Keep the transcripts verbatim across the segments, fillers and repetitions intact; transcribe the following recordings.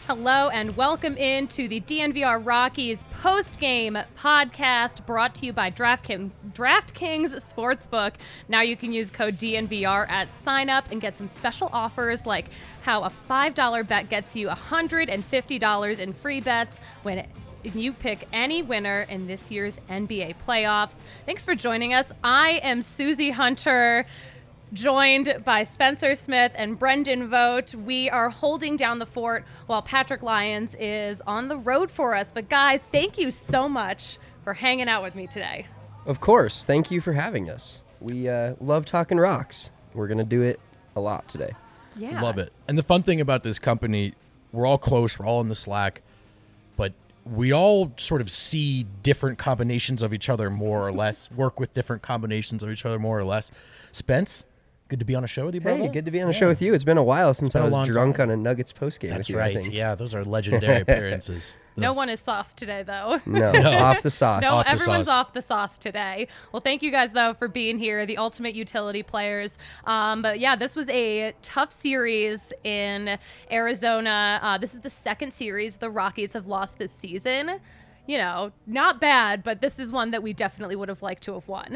Hello and welcome into the D N V R Rockies post-game podcast brought to you by DraftKings, DraftKings Sportsbook. Now you can use code D N V R at sign up and get some special offers like how a five dollar bet gets you one hundred fifty dollars in free bets when you pick any winner in this year's N B A playoffs. Thanks for joining us. I am Susie Hunter, joined by Spencer Smith and Brendan Vogt. We are holding down the fort while Patrick Lyons is on the road for us. But guys, thank you so much for hanging out with me today. Of course. Thank you for having us. We uh, love talking rocks. We're going to do it a lot today. Yeah. Love it. And the fun thing about this company, we're all close, we're all in the Slack, but we all sort of see different combinations of each other more or less, work with different combinations of each other more or less. Spence, good to be on a show with you, brother. Hey, good to be on a yeah. show with you. It's been a while since I was drunk time. on a Nuggets postgame That's with you, right. I think. Yeah, those are legendary appearances. No one is sauced today, though. No, off the sauce. No, Off the everyone's sauce. off the sauce today. Well, thank you guys, though, for being here, the ultimate utility players. Um, but, yeah, this was a tough series in Arizona. Uh, this is the second series the Rockies have lost this season. You know, not bad, but this is one that we definitely would have liked to have won.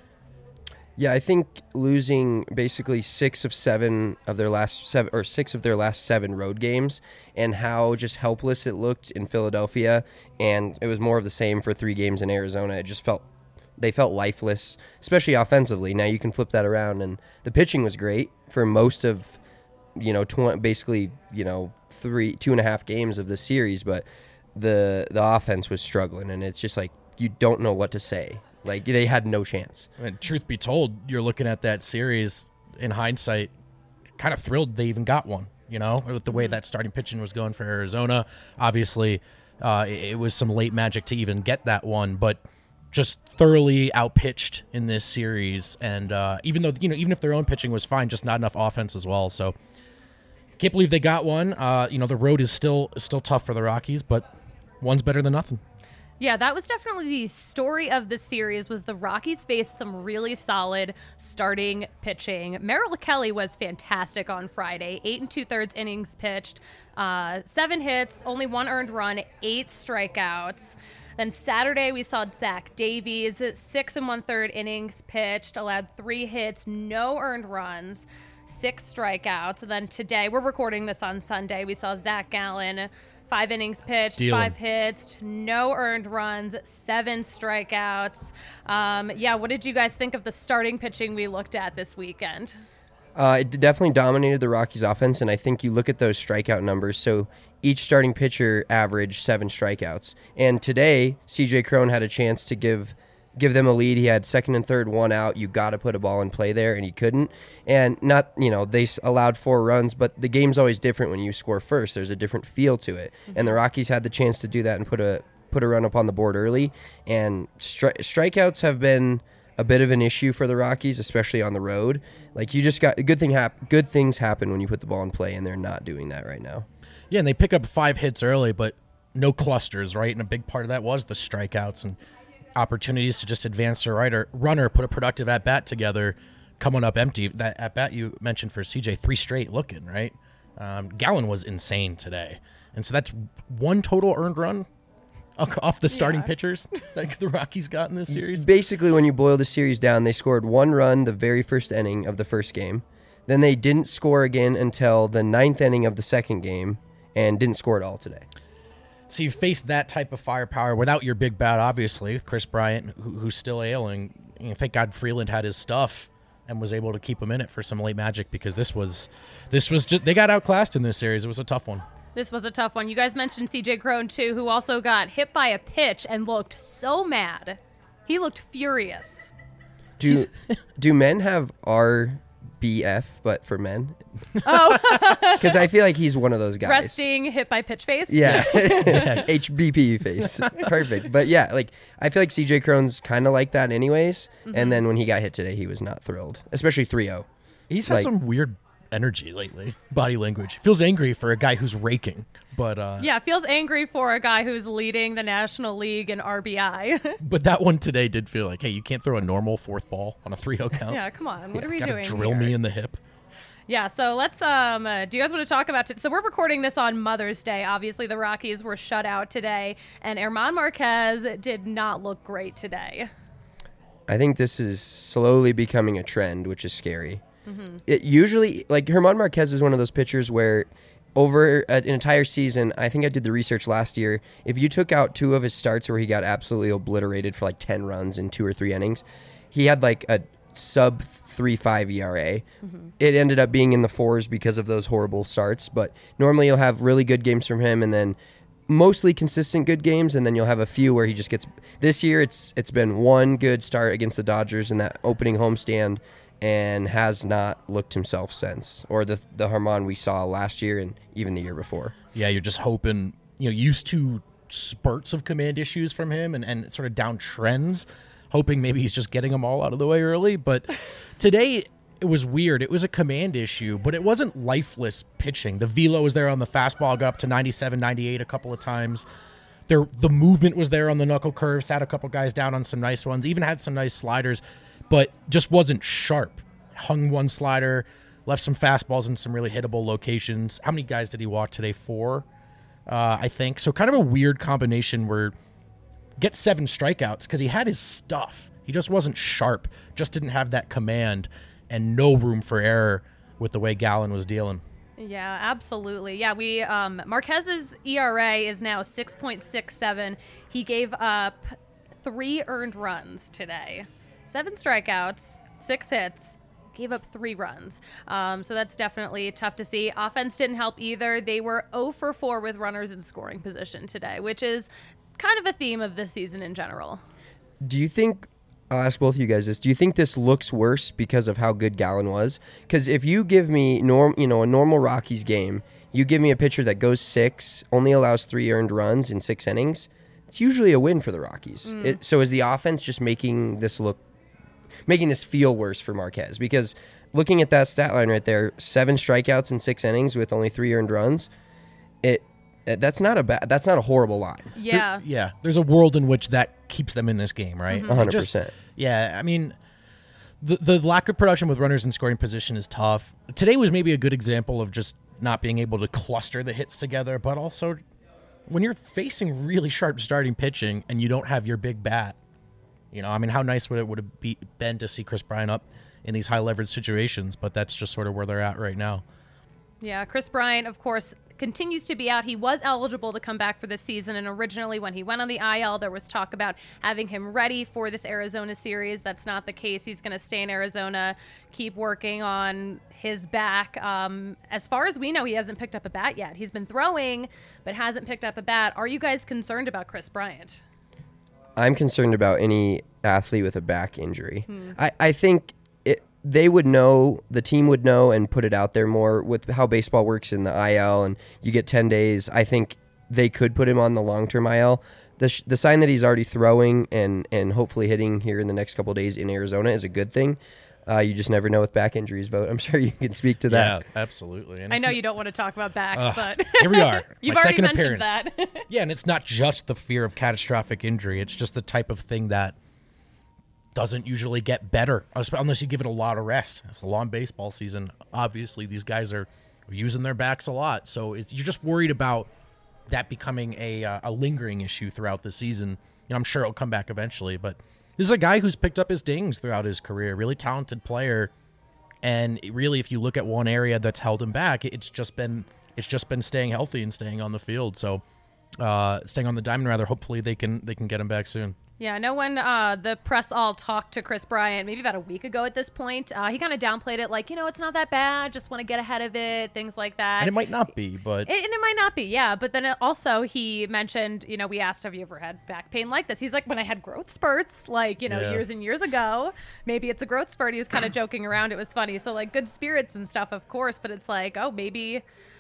Yeah, I think losing basically six of seven of their last seven or six of their last seven road games and how just helpless it looked in Philadelphia, and it was more of the same for three games in Arizona. It just felt they felt lifeless, especially offensively. Now you can flip that around, and the pitching was great for most of, you know, tw- basically, you know, three, two and a half games of the series, but the the offense was struggling, and it's just like you don't know what to say. Like, they had no chance. And truth be told, you're looking at that series in hindsight, kind of thrilled they even got one, you know, with the way that starting pitching was going for Arizona. Obviously, uh, it, it was some late magic to even get that one, but just thoroughly outpitched in this series. And uh, even though, you know, even if their own pitching was fine, just not enough offense as well. So can't believe they got one. Uh, you know, the road is still still tough for the Rockies, but one's better than nothing. Yeah, that was definitely the story of the series. Was the Rockies faced some really solid starting pitching. Merrill Kelly was fantastic on Friday. Eight and two-thirds innings pitched, uh, seven hits, only one earned run, eight strikeouts. Then Saturday we saw Zach Davies, six and one-third innings pitched, allowed three hits, no earned runs, six strikeouts. And then today, we're recording this on Sunday, we saw Zach Gallen, five innings pitched, Dealing. five hits, no earned runs, seven strikeouts. Um, yeah, what did you guys think of the starting pitching we looked at this weekend? Uh, it definitely dominated the Rockies' offense, and I think you look at those strikeout numbers. So each starting pitcher averaged seven strikeouts. And today, C J Cron had a chance to give give them a lead. He had second and third, one out. You got to put a ball in play there, and he couldn't. And not, you know, they allowed four runs, but the game's always different when you score first. There's a different feel to it. Mm-hmm. And the Rockies had the chance to do that and put a put a run up on the board early. And stri- strikeouts have been a bit of an issue for the Rockies, especially on the road. Like, you just got good thing hap- good things happen when you put the ball in play, and they're not doing that right now. Yeah, and they pick up five hits early, but no clusters, right? And a big part of that was the strikeouts and opportunities to just advance the rider, runner, put a productive at-bat together, coming up empty. That at-bat you mentioned for C J, three straight looking, right? Um, Gallen was insane today. And so that's one total earned run off the starting Yeah. pitchers that the Rockies got in this series. Basically, when you boil the series down, they scored one run the very first inning of the first game. Then they didn't score again until the ninth inning of the second game and didn't score at all today. So you face that type of firepower without your big bat, obviously, with Chris Bryant, who, who's still ailing. You know, thank God Freeland had his stuff and was able to keep him in it for some late magic, because this was, this was just, they got outclassed in this series. It was a tough one. This was a tough one. You guys mentioned C J Cron, too, who also got hit by a pitch and looked so mad. He looked furious. Do do men have R B F, but for men? Oh. Because I feel like he's one of those guys. Resting, hit by pitch face? Yeah. H B P face. Perfect. But yeah, like, I feel like C J Cron's kind of like that anyways. Mm-hmm. And then when he got hit today, he was not thrilled, especially three oh. He's had like, some weird energy lately, body language. Feels angry for a guy who's raking, but uh, Yeah, feels angry for a guy who's leading the National League in R B I. but that one today did feel like, hey, you can't throw a normal fourth ball on a three oh count. Yeah, come on. What are we Gotta doing drill here? me in the hip. Yeah, so let's, um, uh, do you guys want to talk about, t- so we're recording this on Mother's Day. Obviously, the Rockies were shut out today, and German Marquez did not look great today. I think this is slowly becoming a trend, which is scary. Mm-hmm. It usually, like, German Marquez is one of those pitchers where over an entire season, I think I did the research last year, if you took out two of his starts where he got absolutely obliterated for like ten runs in two or three innings, he had like a sub three point five E R A. Mm-hmm. It ended up being in the fours because of those horrible starts, but normally you'll have really good games from him and then mostly consistent good games, and then you'll have a few where he just gets... This year it's it's been one good start against the Dodgers in that opening homestand and has not looked himself since, or the the German we saw last year and even the year before. Yeah, you're just hoping, you know, used to spurts of command issues from him and, and sort of down trends, hoping maybe he's just getting them all out of the way early. But today it was weird. It was a command issue, but it wasn't lifeless pitching. The velo was there on the fastball, got up to ninety-seven, ninety-eight a couple of times. There, the movement was there on the knuckle curve, sat a couple guys down on some nice ones, even had some nice sliders, but just wasn't sharp. Hung one slider, left some fastballs in some really hittable locations. How many guys did he walk today? Four, uh, I think. So kind of a weird combination where get seven strikeouts because he had his stuff. He just wasn't sharp, just didn't have that command and no room for error with the way Gallen was dealing. Yeah, absolutely. Yeah, we um, Marquez's E R A is now six point six seven. He gave up three earned runs today. Seven strikeouts, six hits, gave up three runs. Um, so that's definitely tough to see. Offense didn't help either. They were zero for four with runners in scoring position today, which is kind of a theme of this season in general. Do you think, I'll ask both of you guys this, do you think this looks worse because of how good Gallen was? Because if you give me norm, you know, a normal Rockies game, you give me a pitcher that goes six, only allows three earned runs in six innings, it's usually a win for the Rockies. Mm. It, so is the offense just making this look, making this feel worse for Marquez? Because looking at that stat line right there, seven strikeouts in six innings with only three earned runs, it that's not a bad, that's not a horrible line. Yeah. There, yeah. There's a world in which that keeps them in this game, right? Mm-hmm. one hundred percent. Just, yeah. I mean, the the lack of production with runners in scoring position is tough. Today was maybe a good example of just not being able to cluster the hits together, but also when you're facing really sharp starting pitching and you don't have your big bat, you know, I mean, how nice would it would have be, been to see Chris Bryant up in these high leverage situations, but that's just sort of where they're at right now. Yeah, Chris Bryant, of course, continues to be out. He was eligible to come back for this season, and originally when he went on the I L, there was talk about having him ready for this Arizona series. That's not the case. He's going to stay in Arizona, keep working on his back. Um, as far as we know, he hasn't picked up a bat yet. He's been throwing, but hasn't picked up a bat. Are you guys concerned about Chris Bryant? I'm concerned about any athlete with a back injury. Hmm. I, I think it, they would know, the team would know and put it out there more with how baseball works in the I L, and you get ten days. I think they could put him on the long-term I L. The, sh- the sign that he's already throwing and, and hopefully hitting here in the next couple of days in Arizona is a good thing. Uh, you just never know with back injuries, but I'm sure you can speak to that. Yeah, absolutely. And I know you don't want to talk about backs, uh, but here we are. You've My already second mentioned appearance. that. Yeah, and it's not just the fear of catastrophic injury. It's just the type of thing that doesn't usually get better unless you give it a lot of rest. It's a long baseball season. Obviously, these guys are using their backs a lot, so it's, you're just worried about that becoming a uh, a lingering issue throughout the season. You know, I'm sure it'll come back eventually, but this is a guy who's picked up his dings throughout his career. Really talented player. And really, if you look at one area that's held him back, it's just been it's just been staying healthy and staying on the field. So, uh, staying on the diamond, rather. Hopefully, they can they can get him back soon. Yeah, no one, uh, the press all talked to Chris Bryant maybe about a week ago at this point. Uh, he kind of downplayed it, like, you know, it's not that bad. Just want to get ahead of it, things like that. And it might not be, but it, and it might not be, yeah. But then it also he mentioned, you know, we asked, have you ever had back pain like this? He's like, when I had growth spurts, like, you know, Yeah. years and years ago. Maybe it's a growth spurt. He was kind of joking around. It was funny. So like good spirits and stuff, of course. But it's like, oh, maybe.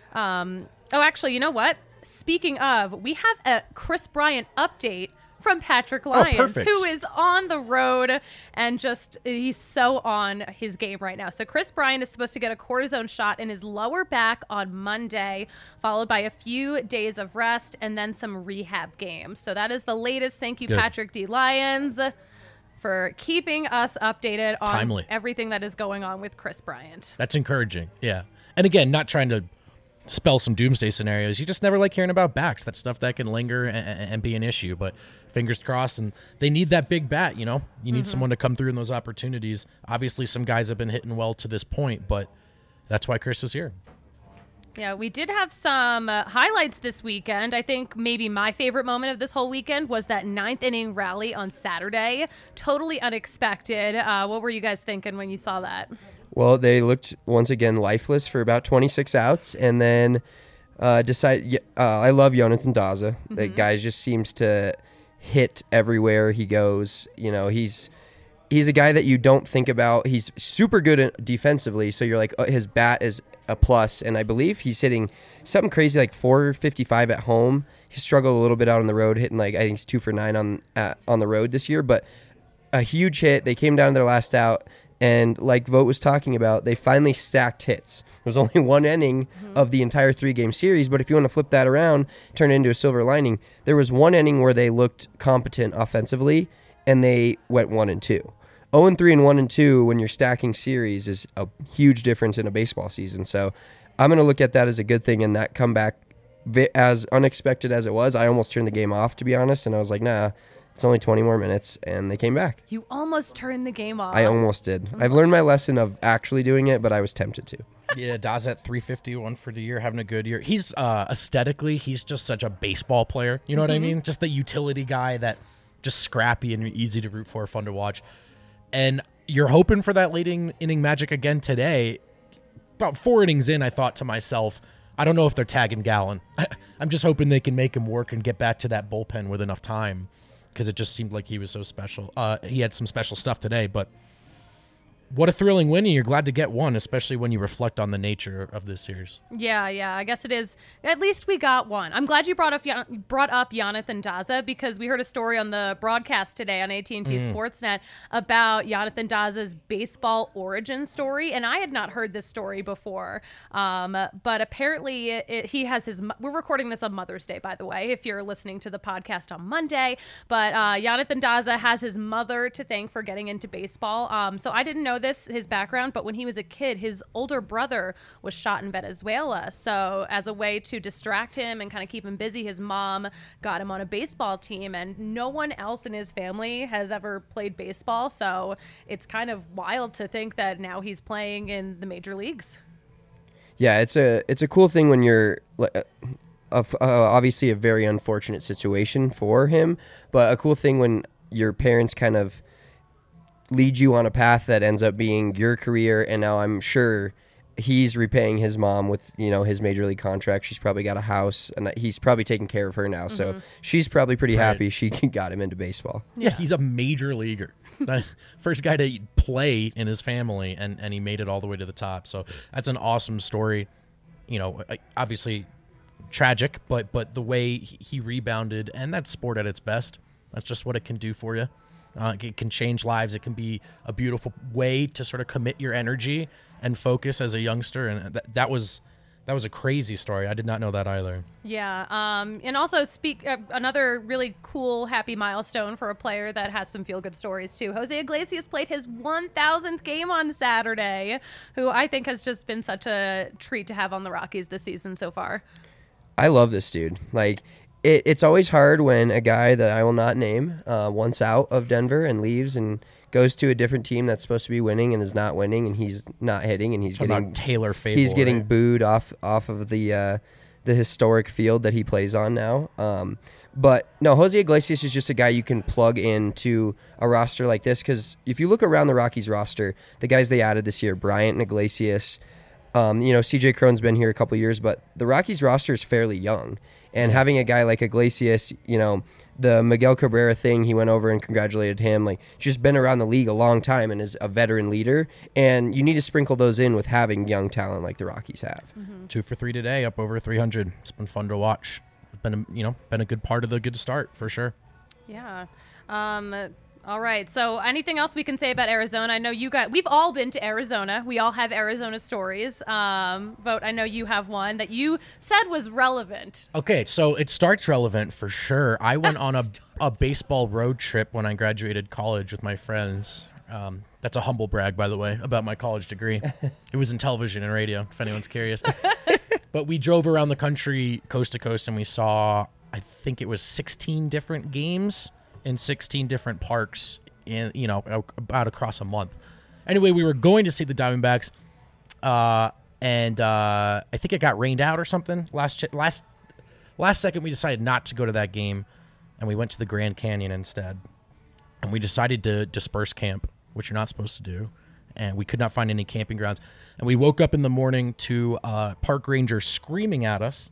Um, oh, actually, you know what? Speaking of, we have a Chris Bryant update from Patrick Lyons, perfect. who is on the road and just, he's so on his game right now. So Chris Bryant is supposed to get a cortisone shot in his lower back on Monday, followed by a few days of rest and then some rehab games. So that is the latest. Thank you, Good. Patrick D. Lyons, for keeping us updated on Timely. everything that is going on with Chris Bryant. That's encouraging. Yeah. And again, not trying to spell some doomsday scenarios. You just never like hearing about backs. That's stuff that can linger and, and be an issue. But fingers crossed. And they need that big bat, you know? You need mm-hmm. someone to come through in those opportunities. Obviously, some guys have been hitting well to this point, but that's why Chris is here. Yeah, we did have some uh, highlights this weekend. I think maybe my favorite moment of this whole weekend was that ninth inning rally on Saturday. Totally unexpected. Uh, what were you guys thinking when you saw that? Well, they looked once again lifeless for about twenty-six outs, and then uh, decide. Uh, I love Jonathan Daza. Mm-hmm. That guy just seems to hit everywhere he goes. You know, he's he's a guy that you don't think about. He's super good at defensively, so you're like, oh, his bat is a plus, and I believe he's hitting something crazy like four fifty-five at home. He struggled a little bit out on the road, hitting like I think he's two for nine on uh, on the road this year, but a huge hit. They came down to their last out. And like Vogt was talking about, they finally stacked hits. There was only one inning mm-hmm. of the entire three-game series, but if you want to flip that around, turn it into a silver lining, there was one inning where they looked competent offensively, and they went one and two. oh and three and one and two when you're stacking series is a huge difference in a baseball season. So I'm going to look at that as a good thing, and that comeback, as unexpected as it was, I almost turned the game off, to be honest, and I was like, nah, it's only twenty more minutes, and they came back. You almost turned the game off. I almost did. I've learned my lesson of actually doing it, but I was tempted to. Yeah, Daz at three fifty-one for the year, having a good year. He's uh, aesthetically, he's just such a baseball player. You know mm-hmm. what I mean? Just the utility guy that just scrappy and easy to root for, fun to watch. And you're hoping for that late inning magic again today. About four innings in, I thought to myself, I don't know if they're tagging Gallen. I'm just hoping they can make him work and get back to that bullpen with enough time, because it just seemed like he was so special. Uh, he had some special stuff today, but what a thrilling win, and you're glad to get one, especially when you reflect on the nature of this series. Yeah, yeah, I guess it is. At least we got one. I'm glad you brought up brought up Jonathan Daza, because we heard a story on the broadcast today on A T and T mm. Sportsnet about Jonathan Daza's baseball origin story, and I had not heard this story before. Um, but apparently, it, it, he has his. We're recording this on Mother's Day, by the way, if you're listening to the podcast on Monday. But uh, Jonathan Daza has his mother to thank for getting into baseball. Um, so I didn't know this, his background, but when he was a kid, his older brother was shot in Venezuela. So as a way to distract him and kind of keep him busy, his mom got him on a baseball team, and no one else in his family has ever played baseball. So it's kind of wild to think that now he's playing in the major leagues. Yeah, it's a it's a cool thing when you're uh, uh, obviously a very unfortunate situation for him, but a cool thing when your parents kind of lead you on a path that ends up being your career. And now I'm sure he's repaying his mom with, you know, his major league contract. She's probably got a house, and he's probably taking care of her now. Mm-hmm. So she's probably pretty right. happy she got him into baseball. Yeah, yeah, he's a major leaguer. First guy to play in his family, and, and he made it all the way to the top. So that's an awesome story. You know, obviously tragic, but but the way he rebounded, and that's sport at its best. That's just what it can do for you. Uh, it can change lives. It can be a beautiful way to sort of commit your energy and focus as a youngster. And that, that was that was a crazy story. I did not know that either. Yeah. Um, and also speak uh, another really cool, happy milestone for a player that has some feel-good stories too. Jose Iglesias played his one thousandth game on Saturday, who I think has just been such a treat to have on the Rockies this season so far. I love this dude. Like, It, it's always hard when a guy that I will not name uh, wants out of Denver and leaves and goes to a different team that's supposed to be winning and is not winning, and he's not hitting, and he's Talking getting about Taylor Fable, he's getting right? booed off off of the uh, the historic field that he plays on now. Um, but no, Jose Iglesias is just a guy you can plug into a roster like this, because if you look around the Rockies roster, the guys they added this year, Bryant and Iglesias. Um, you know, C J Cron's been here a couple years, but the Rockies roster is fairly young. And having a guy like Iglesias, you know, the Miguel Cabrera thing, he went over and congratulated him. Like, just been around the league a long time and is a veteran leader. And you need to sprinkle those in with having young talent like the Rockies have. Mm-hmm. Two for three today, up over three hundred. It's been fun to watch. It's been, a, you know, been a good part of the good start for sure. Yeah. Um, All right. So anything else we can say about Arizona? I know you got, we've all been to Arizona. We all have Arizona stories. Um, Vote, I know you have one that you said was relevant. Okay, so it starts relevant for sure. I went on a, a baseball road trip when I graduated college with my friends. Um, that's a humble brag, by the way, about my college degree. It was in television and radio, if anyone's curious. But we drove around the country coast to coast, and we saw, I think it was sixteen different games in sixteen different parks in, you know, about across a month. Anyway, we were going to see the Diamondbacks, uh, and uh, I think it got rained out or something. Last ch- last last second, we decided not to go to that game, and we went to the Grand Canyon instead. And we decided to disperse camp, which you're not supposed to do, and we could not find any camping grounds. And we woke up in the morning to uh, park rangers screaming at us,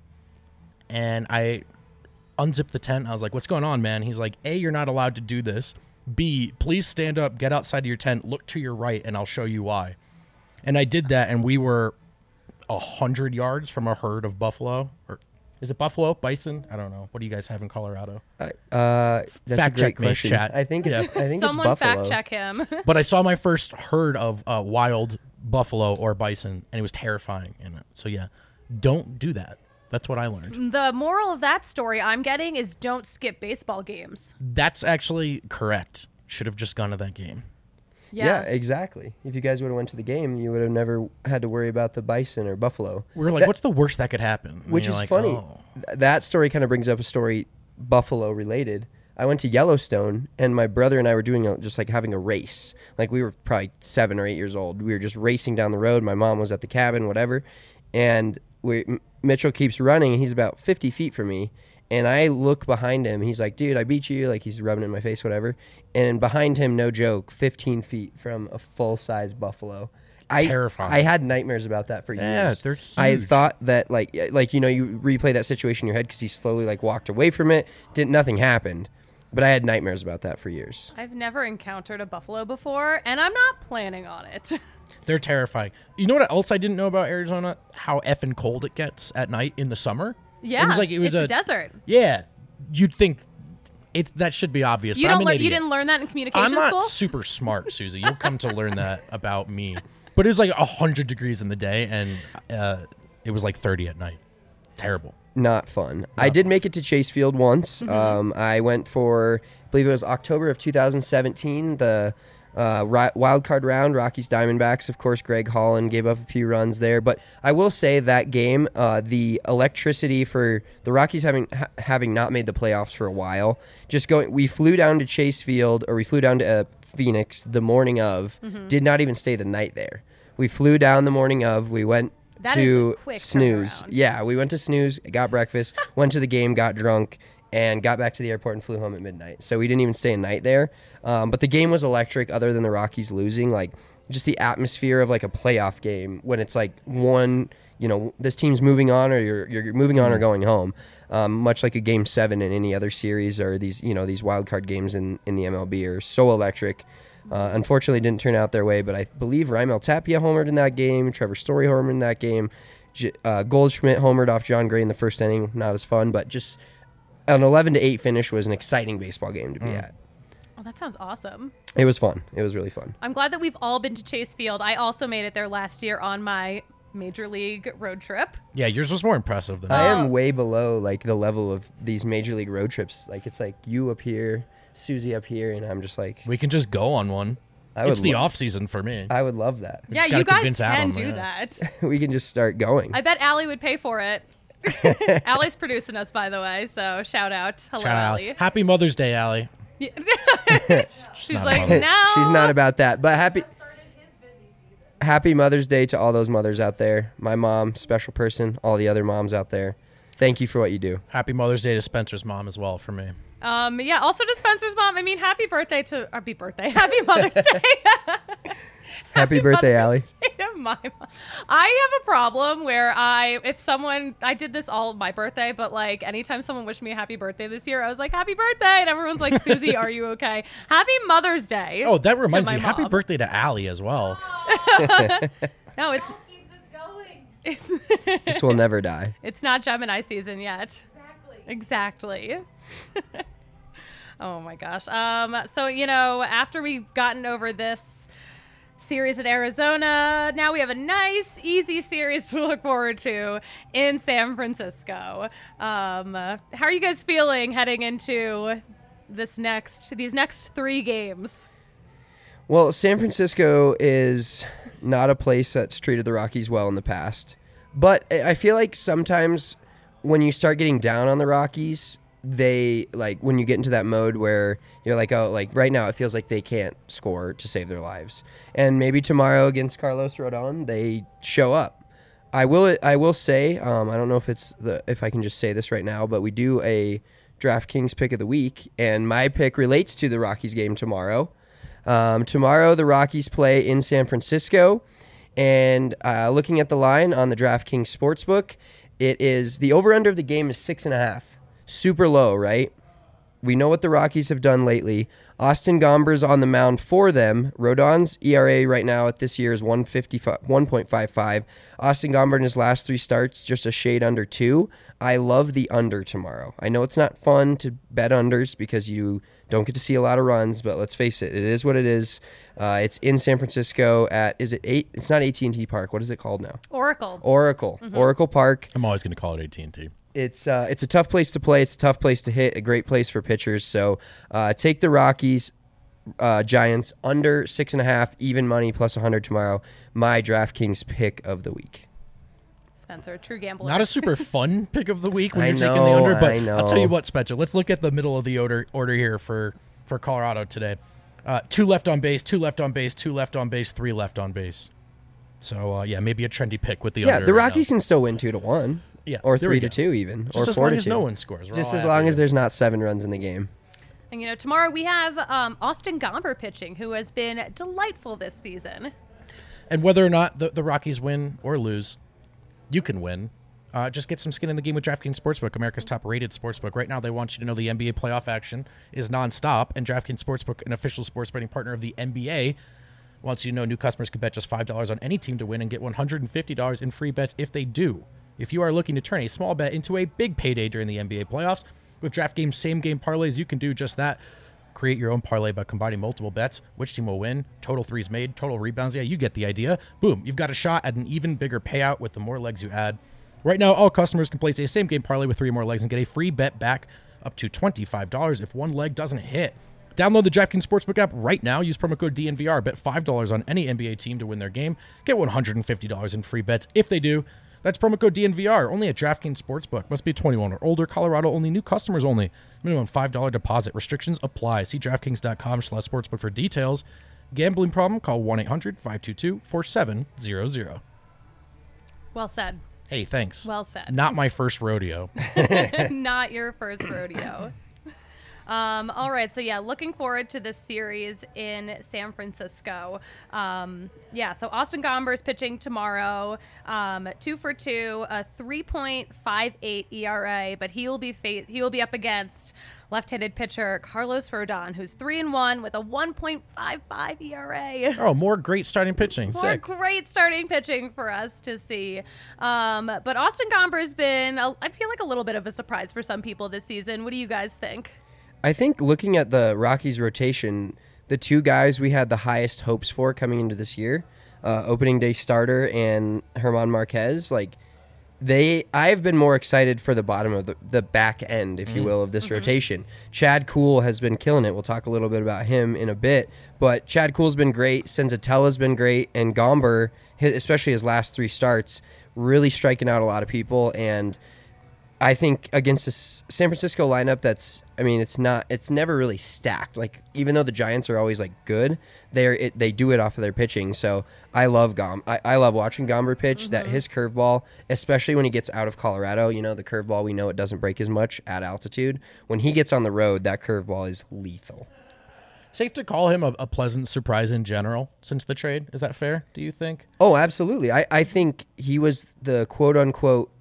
and I unzipped the tent. I was like, what's going on, man? He's like, A, you're not allowed to do this. B, please stand up, get outside of your tent, look to your right, and I'll show you why. And I did that, and we were a hundred yards from a herd of buffalo. Or is it buffalo? Bison? I don't know. What do you guys have in Colorado? Uh, that's Fact a great check me, question. chat. I think it's, Yeah. I think Someone it's buffalo. fact check him. But I saw my first herd of uh, wild buffalo or bison, and it was terrifying. And so, yeah, don't do that. That's what I learned. The moral of that story I'm getting is don't skip baseball games. That's actually correct. Should have just gone to that game. Yeah. exactly. If you guys would have went to the game, you would have never had to worry about the bison or buffalo. We were like, That- what's the worst that could happen? And Which you're is like, funny. oh. Th- That story kind of brings up a story buffalo related. I went to Yellowstone, and my brother and I were doing a, just like having a race. Like we were probably seven or eight years old. We were just racing down the road. My mom was at the cabin, whatever. And we, M- Mitchell keeps running, and he's about fifty feet from me. And I look behind him. He's like, dude, I beat you. Like he's rubbing it in my face, whatever. And behind him, no joke, fifteen feet from a full-size buffalo. I, Terrifying. I had nightmares about that for Yeah, years. they're I huge. thought that like like you know you replay that situation in your head because he slowly like walked away from it. Didn't nothing happened, but I had nightmares about that for years. I've never encountered a buffalo before, and I'm not planning on it. They're terrifying. You know what else I didn't know about Arizona? How effing cold it gets at night in the summer. Yeah, it was like it was it's a, desert. Yeah, you'd think it's that should be obvious. You but I'm don't an learn. idiot. You didn't learn that in communication I'm not school. super smart, Susie. You'll come to learn that about me. But it was like a hundred degrees in the day, and uh, it was like thirty at night. Terrible. Not fun. I did make it to Chase Field once. Um, I went for, I believe it was October of two thousand seventeen, the uh, ri- wild card round, Rockies Diamondbacks. Of course, Greg Holland gave up a few runs there. But I will say that game, uh, the electricity for the Rockies having ha- having not made the playoffs for a while, just going, we flew down to Chase Field, or we flew down to uh, Phoenix the morning of, did not even stay the night there. We flew down the morning of, we went That is to a quick Snooze. turnaround. Yeah, we went to Snooze, got breakfast, went to the game, got drunk, and got back to the airport and flew home at midnight. So we didn't even stay a night there. Um, but the game was electric other than the Rockies losing. Like, just the atmosphere of, like, a playoff game when it's, like, one, you know, this team's moving on or you're, you're moving on or going home. Um, much like a game seven in any other series or these, you know, these wild card games in, in the M L B are so electric. Uh, unfortunately, it didn't turn out their way, but I believe Raimel Tapia homered in that game. Trevor Story homered in that game. J- uh, Goldschmidt homered off John Gray in the first inning. Not as fun, but just an eleven to eight finish was an exciting baseball game to be at. Oh, that sounds awesome. It was fun. It was really fun. I'm glad that we've all been to Chase Field. I also made it there last year on my major league road trip. Yeah, yours was more impressive than I mine. am way below like the level of these major league road trips. Like it's like you up here, Susie up here, and I'm just like, We can just go on one. I would It's the lo- off season for me. I would love that. Yeah, just gotta you guys convince can Adam, do yeah. that. We can just start going. I bet Allie would pay for it. Allie's producing us, by the way, so shout out. Hello, Shout out. Allie. Happy Mother's Day, Allie. She's not a like, mother. no. She's not about that, but happy. Happy Mother's Day to all those mothers out there. My mom, special person, all the other moms out there. Thank you for what you do. Happy Mother's Day to Spencer's mom as well for me. Um, yeah, also to Spencer's mom. I mean, happy birthday to, or happy birthday, happy Mother's Day. Happy birthday, Allie. Mother's Day to my mom. I have a problem where I, if someone, I did this all my birthday, but like anytime someone wished me a happy birthday this year, I was like, happy birthday. And everyone's like, Susie, are you okay? Happy Mother's Day. Oh, that to reminds my me. Happy mom. birthday to Allie as well. No, it's, Keep this going. it's, This will never die. it's not Gemini season yet. Exactly. Exactly. Oh my gosh. Um, so, you know, after we've gotten over this series in Arizona, now we have a nice, easy series to look forward to in San Francisco. Um, uh, how are you guys feeling heading into this next, these next three games? Well, San Francisco is not a place that's treated the Rockies well in the past. But I feel like sometimes when you start getting down on the Rockies, they, like, when you get into that mode where you're like, oh, like, right now it feels like they can't score to save their lives. And maybe tomorrow against Carlos Rodon, they show up. I will I will say, um, I don't know if it's the if I can just say this right now, but we do a DraftKings pick of the week, and my pick relates to the Rockies game tomorrow. Um, tomorrow, the Rockies play in San Francisco, and uh, looking at the line on the DraftKings Sportsbook, it is the over-under of the game is six and a half. Super low, right? We know what the Rockies have done lately. Austin Gomber's on the mound for them. Rodon's E R A right now at this year is one point five five. Austin Gomber in his last three starts, just a shade under two. I love the under tomorrow. I know it's not fun to bet unders because you don't get to see a lot of runs, but let's face it, it is what it is. Uh, it's in San Francisco at, is it eight? It's not A T and T Park. What is it called now? Oracle. Oracle. Mm-hmm. Oracle Park. I'm always going to call it A T and T. It's uh, it's a tough place to play. It's a tough place to hit. A great place for pitchers. So uh, take the Rockies, uh, Giants under six and a half, even money plus one hundred tomorrow. My DraftKings pick of the week. Spencer, true gambler. Not a super fun pick of the week when I you're know, taking the under, but I know. I'll tell you what, Spencer. Let's look at the middle of the order order here for for Colorado today. Uh, two left on base, two left on base, two left on base, three left on base. So uh, yeah, maybe a trendy pick with the Yeah, under. the right Rockies now. can still win two to one. Yeah, or there three we to go. two even, Just or as four long to as two. no one scores. We're Just all as happy long as here. there's not seven runs in the game. And, you know, tomorrow we have um, Austin Gomber pitching, who has been delightful this season. And whether or not the, the Rockies win or lose, you can win. Uh, just get some skin in the game with DraftKings Sportsbook, America's top-rated sportsbook. Right now, they want you to know the N B A playoff action is nonstop, and DraftKings Sportsbook, an official sports betting partner of the N B A, wants you to know new customers can bet just five dollars on any team to win and get one hundred fifty dollars in free bets if they do. If you are looking to turn a small bet into a big payday during the N B A playoffs, with DraftKings same-game parlays, you can do just that. Create your own parlay by combining multiple bets. Which team will win? Total threes made, total rebounds. Yeah, you get the idea. Boom, you've got a shot at an even bigger payout with the more legs you add. Right now, all customers can place a same-game parlay with three more legs and get a free bet back up to twenty-five dollars if one leg doesn't hit. Download the DraftKings Sportsbook app right now. Use promo code D N V R. Bet five dollars on any N B A team to win their game. Get one hundred fifty dollars in free bets if they do. That's promo code D N V R. Only at DraftKings Sportsbook. Must be twenty-one or older. Colorado only. New customers only. Minimum five dollars deposit. Restrictions apply. See DraftKings.com slash sportsbook for details. Gambling problem? Call one eight hundred five two two four seven zero zero. Well said. Hey, thanks. Well said. Not my first rodeo. Not your first rodeo. Um, all right, so yeah, looking forward to this series in San Francisco. Um, yeah, so Austin Gomber is pitching tomorrow, um, two for two, a three point five eight E R A, but he will be fa- he will be up against left-handed pitcher Carlos Rodon, who's three and one with a one point five five E R A. Oh, more great starting pitching. More Sick. great starting pitching for us to see. Um, but Austin Gomber has been, a, I feel like, a little bit of a surprise for some people this season. What do you guys think? I think looking at the Rockies rotation, the two guys we had the highest hopes for coming into this year, uh, opening day starter and Herman Marquez, like they, I've been more excited for the bottom of the, the back end, if you will, of this mm-hmm. rotation. Chad Kuhl has been killing it. We'll talk a little bit about him in a bit, but Chad Kuhl's been great. Senzatella's been great, and Gomber, especially his last three starts, really striking out a lot of people. And I think against a San Francisco lineup that's, I mean, it's not, it's never really stacked. Like, even though the Giants are always like good, they're it, they do it off of their pitching. So I love Gom. I, I love watching Gomber pitch. Mm-hmm. That his curveball, especially when he gets out of Colorado, you know, the curveball, we know it doesn't break as much at altitude. When he gets on the road, that curveball is lethal. Safe to call him a, a pleasant surprise in general since the trade. Is that fair? Do you think? Oh, absolutely. I, I think he was the quote unquote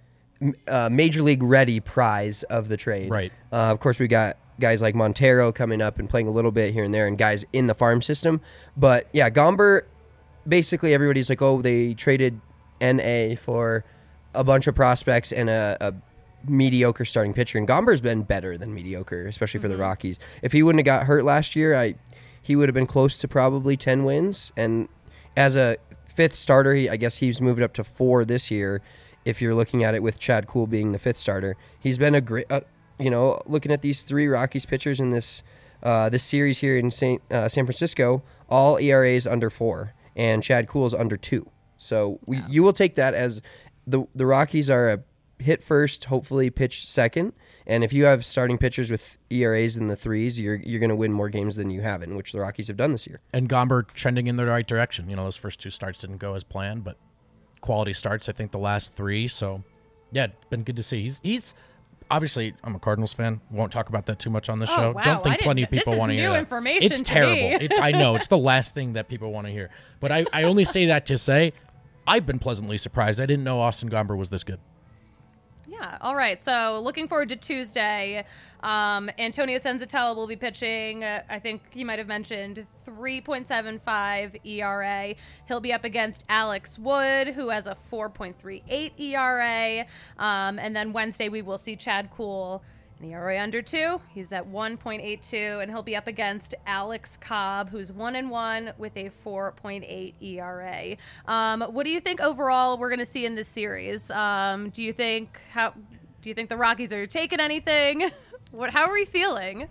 Uh, Major League ready prize of the trade. Right. Uh, of course, we got guys like Montero coming up and playing a little bit here and there, and guys in the farm system. But yeah, Gomber, basically everybody's like, oh, they traded N A for a bunch of prospects and a, a mediocre starting pitcher, and Gomber's been better than mediocre, especially for Mm-hmm. the Rockies. If he wouldn't have got hurt last year, I he would have been close to probably ten wins. And as a fifth starter, he, I guess he's moved up to four this year. If you're looking at it with Chad Kuhl being the fifth starter, he's been a great. Uh, you know, looking at these three Rockies pitchers in this uh, this series here in Saint, uh, San Francisco, all E R As under four, and Chad Kuhl's under two. So we, Yeah. you will take that as the the Rockies are a hit first, hopefully pitch second. And if you have starting pitchers with E R As in the threes, you're you're going to win more games than you haven't, which the Rockies have done this year. And Gomber trending in the right direction. You know, those first two starts didn't go as planned, but quality starts, I think, the last three. So, yeah, it's been good to see. He's he's obviously, I'm a Cardinals fan. Won't talk about that too much on the Oh, show. wow. Don't I think didn't- plenty of this people is want to hear new that. information It's to terrible. me. It's I know it's the last thing that people want to hear. But I, I only say that to say I've been pleasantly surprised. I didn't know Austin Gomber was this good. Yeah. All right. So looking forward to Tuesday. Um, Antonio Senzatella will be pitching. Uh, I think he might have mentioned three point seven five E R A. He'll be up against Alex Wood, who has a four point three eight E R A. Um, and then Wednesday we will see Chad Kuhl. An E R A under two. He's at one point eight two, and he'll be up against Alex Cobb, who's one and one with a four point eight E R A. Um, what do you think overall we're going to see in this series? Um, do you think how? Do you think the Rockies are taking anything? What? How are we feeling?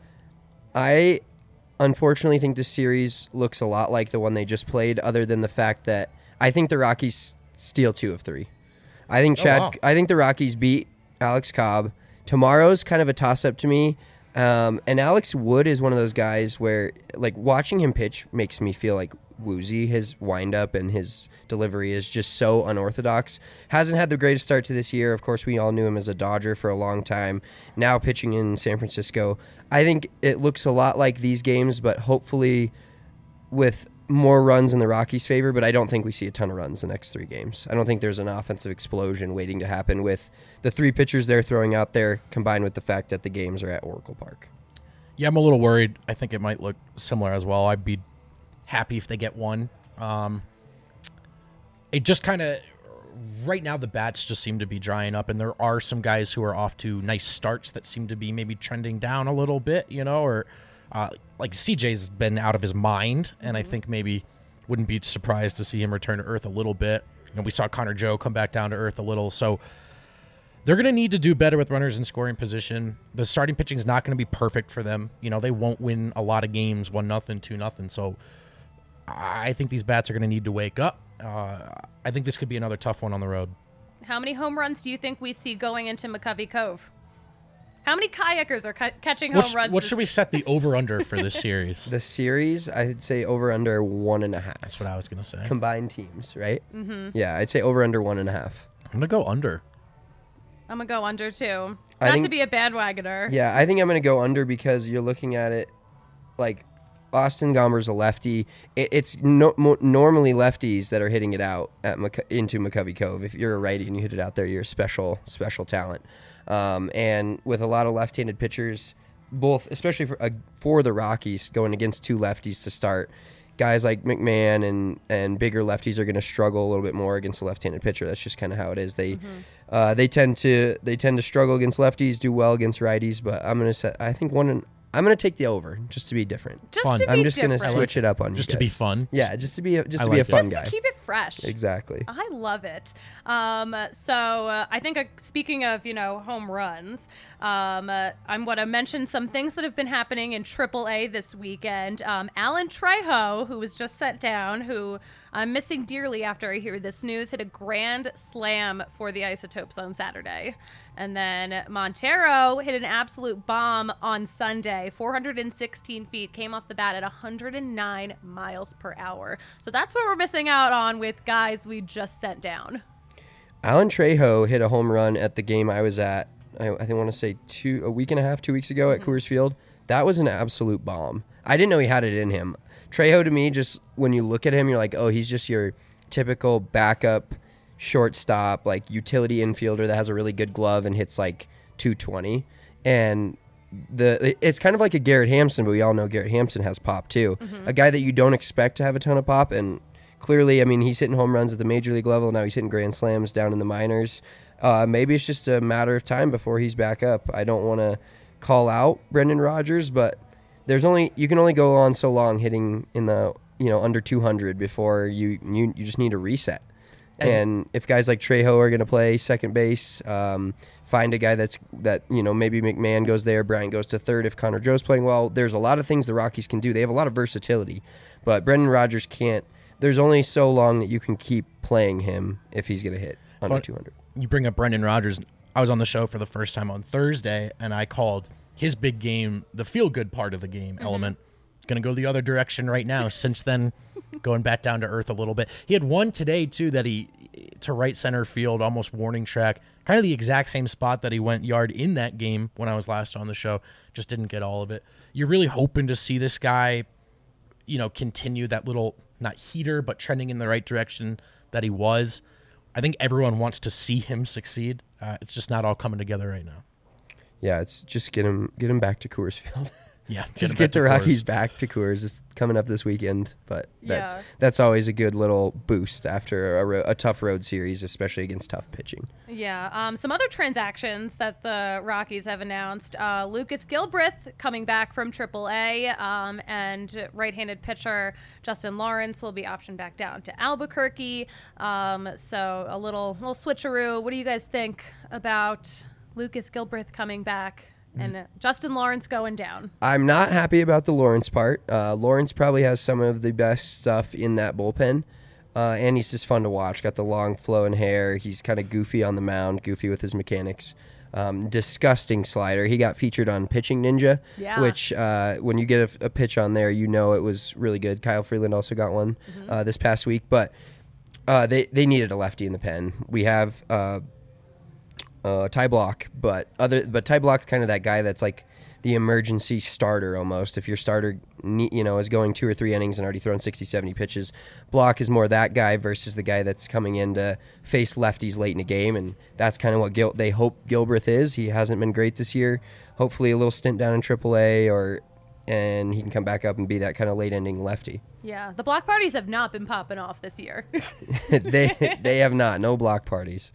I unfortunately think this series looks a lot like the one they just played, other than the fact that I think the Rockies steal two of three. I think Oh, Chad. wow. I think the Rockies beat Alex Cobb. Tomorrow's kind of a toss-up to me. Um, and Alex Wood is one of those guys where, like, watching him pitch makes me feel like woozy. His windup and his delivery is just so unorthodox. Hasn't had the greatest start to this year. Of course, we all knew him as a Dodger for a long time. Now pitching in San Francisco. I think it looks a lot like these games, but hopefully with more runs in the Rockies' favor, but I don't think we see a ton of runs the next three games. I don't think there's an offensive explosion waiting to happen with the three pitchers they're throwing out there, combined with the fact that the games are at Oracle Park. Yeah, I'm a little worried. I think it might look similar as well. I'd be happy if they get one. Um, it just kind of, right now the bats just seem to be drying up, and there are some guys who are off to nice starts that seem to be maybe trending down a little bit, you know, or uh, like C J's been out of his mind, and I think maybe wouldn't be surprised to see him return to earth a little bit. You know, we saw Connor Joe come back down to earth a little, so they're going to need to do better with runners in scoring position. The starting pitching is not going to be perfect for them. You know, they won't win a lot of games, one nothing, two nothing. So I think these bats are going to need to wake up. Uh, I think this could be another tough one on the road. How many home runs do you think we see going into McCovey Cove? How many kayakers are ca- catching home What, sh- runs? what this- should we set the over under for this series? The series, I'd say over under one and a half. That's what I was going to say. Combined teams, right? Mm-hmm. Yeah, I'd say over under one and a half. I'm going to go under. I'm gonna go under too. I Not think- to be a bandwagoner. Yeah, I think I'm going to go under because you're looking at it like Austin Gomber's a lefty. It, it's no, mo- normally lefties that are hitting it out at Mc, into McCovey Cove. If you're a righty and you hit it out there, you're a special, special talent. Um, and with a lot of left-handed pitchers, both, especially for, uh, for the Rockies, going against two lefties to start, guys like McMahon and, and bigger lefties are going to struggle a little bit more against a left-handed pitcher. That's just kind of how it is. They Mm-hmm. uh, they tend to they tend to struggle against lefties, do well against righties. But I'm gonna set. I think one. And, I'm gonna take the over just to be different. Just Fun. to be I'm just different. gonna switch it up on you Just to be guys. fun. Yeah, just to be a, just I to be a like it. fun Just guy. to keep it fresh. Exactly. I love it. Um, so uh, I think uh, speaking of, you know, home runs, um, uh, I'm going to mention some things that have been happening in triple A this weekend. Um, Alan Trejo, who was just set down, who I'm missing dearly after I hear this news, hit a grand slam for the Isotopes on Saturday. And then Montero hit an absolute bomb on Sunday, four hundred sixteen feet, came off the bat at one hundred nine miles per hour. So that's what we're missing out on with guys we just sent down. Alan Trejo hit a home run at the game I was at. I, I think I want to say two a week and a half, two weeks ago at Coors Field. That was an absolute bomb. I didn't know he had it in him. Trejo, to me, just when you look at him, you're like, oh, he's just your typical backup shortstop, like utility infielder that has a really good glove and hits like two twenty. And the it's kind of like a Garrett Hampson, but we all know Garrett Hampson has pop too. Mm-hmm. A guy that you don't expect to have a ton of pop, and clearly, I mean, he's hitting home runs at the major league level. Now he's hitting grand slams down in the minors. uh, maybe it's just a matter of time before he's back up. I don't want to call out Brendan Rodgers, but there's only you can only go on so long hitting in the you know under two hundred before you you, you just need a reset. And, and if guys like Trejo are going to play second base, um, find a guy that's that you know maybe McMahon goes there, Bryant goes to third. If Connor Joe's playing well, there's a lot of things the Rockies can do. They have a lot of versatility, but Brendan Rodgers can't. There's only so long that you can keep playing him if he's going to hit under Fun, two hundred. You bring up Brendan Rodgers. I was on the show for the first time on Thursday, and I called his big game, the feel-good part of the game mm-hmm. element. It's going to go the other direction right now. Since then, going back down to earth a little bit. He had one today, too, that he, to right center field, almost warning track, kind of the exact same spot that he went yard in that game when I was last on the show. Just didn't get all of it. You're really hoping to see this guy, you know, continue that little, not heater, but trending in the right direction that he was. I think everyone wants to see him succeed. Uh, it's just not all coming together right now. Yeah, it's just get him get him back to Coors Field. Yeah, just get the Rockies back to Coors. It's coming up this weekend, but that's yeah. that's always a good little boost after a, ro- a tough road series, especially against tough pitching. Yeah. Um, some other transactions that the Rockies have announced: uh, Lucas Gilbreth coming back from triple A, um, and right-handed pitcher Justin Lawrence will be optioned back down to Albuquerque. Um, so a little little switcheroo. What do you guys think about Lucas Gilbreth coming back? And uh, Justin Lawrence going down. I'm not happy about the Lawrence part. Uh, Lawrence probably has some of the best stuff in that bullpen. Uh, and he's just fun to watch. Got the long flowing hair. He's kind of goofy on the mound, goofy with his mechanics. Um, disgusting slider. He got featured on Pitching Ninja, yeah. which uh, when you get a, a pitch on there, you know it was really good. Kyle Freeland also got one mm-hmm. uh, this past week. But uh, they, they needed a lefty in the pen. We have... Uh, Uh, Ty Block, but other but Ty Block's kind of that guy that's like the emergency starter almost. If your starter, you know, is going two or three innings and already thrown sixty, seventy pitches, Block is more that guy versus the guy that's coming in to face lefties late in a game, and that's kind of what Gil- they hope Gilbreth is. He hasn't been great this year. Hopefully, a little stint down in triple A, or and he can come back up and be that kind of late ending lefty. Yeah, the block parties have not been popping off this year. they they have not. No block parties.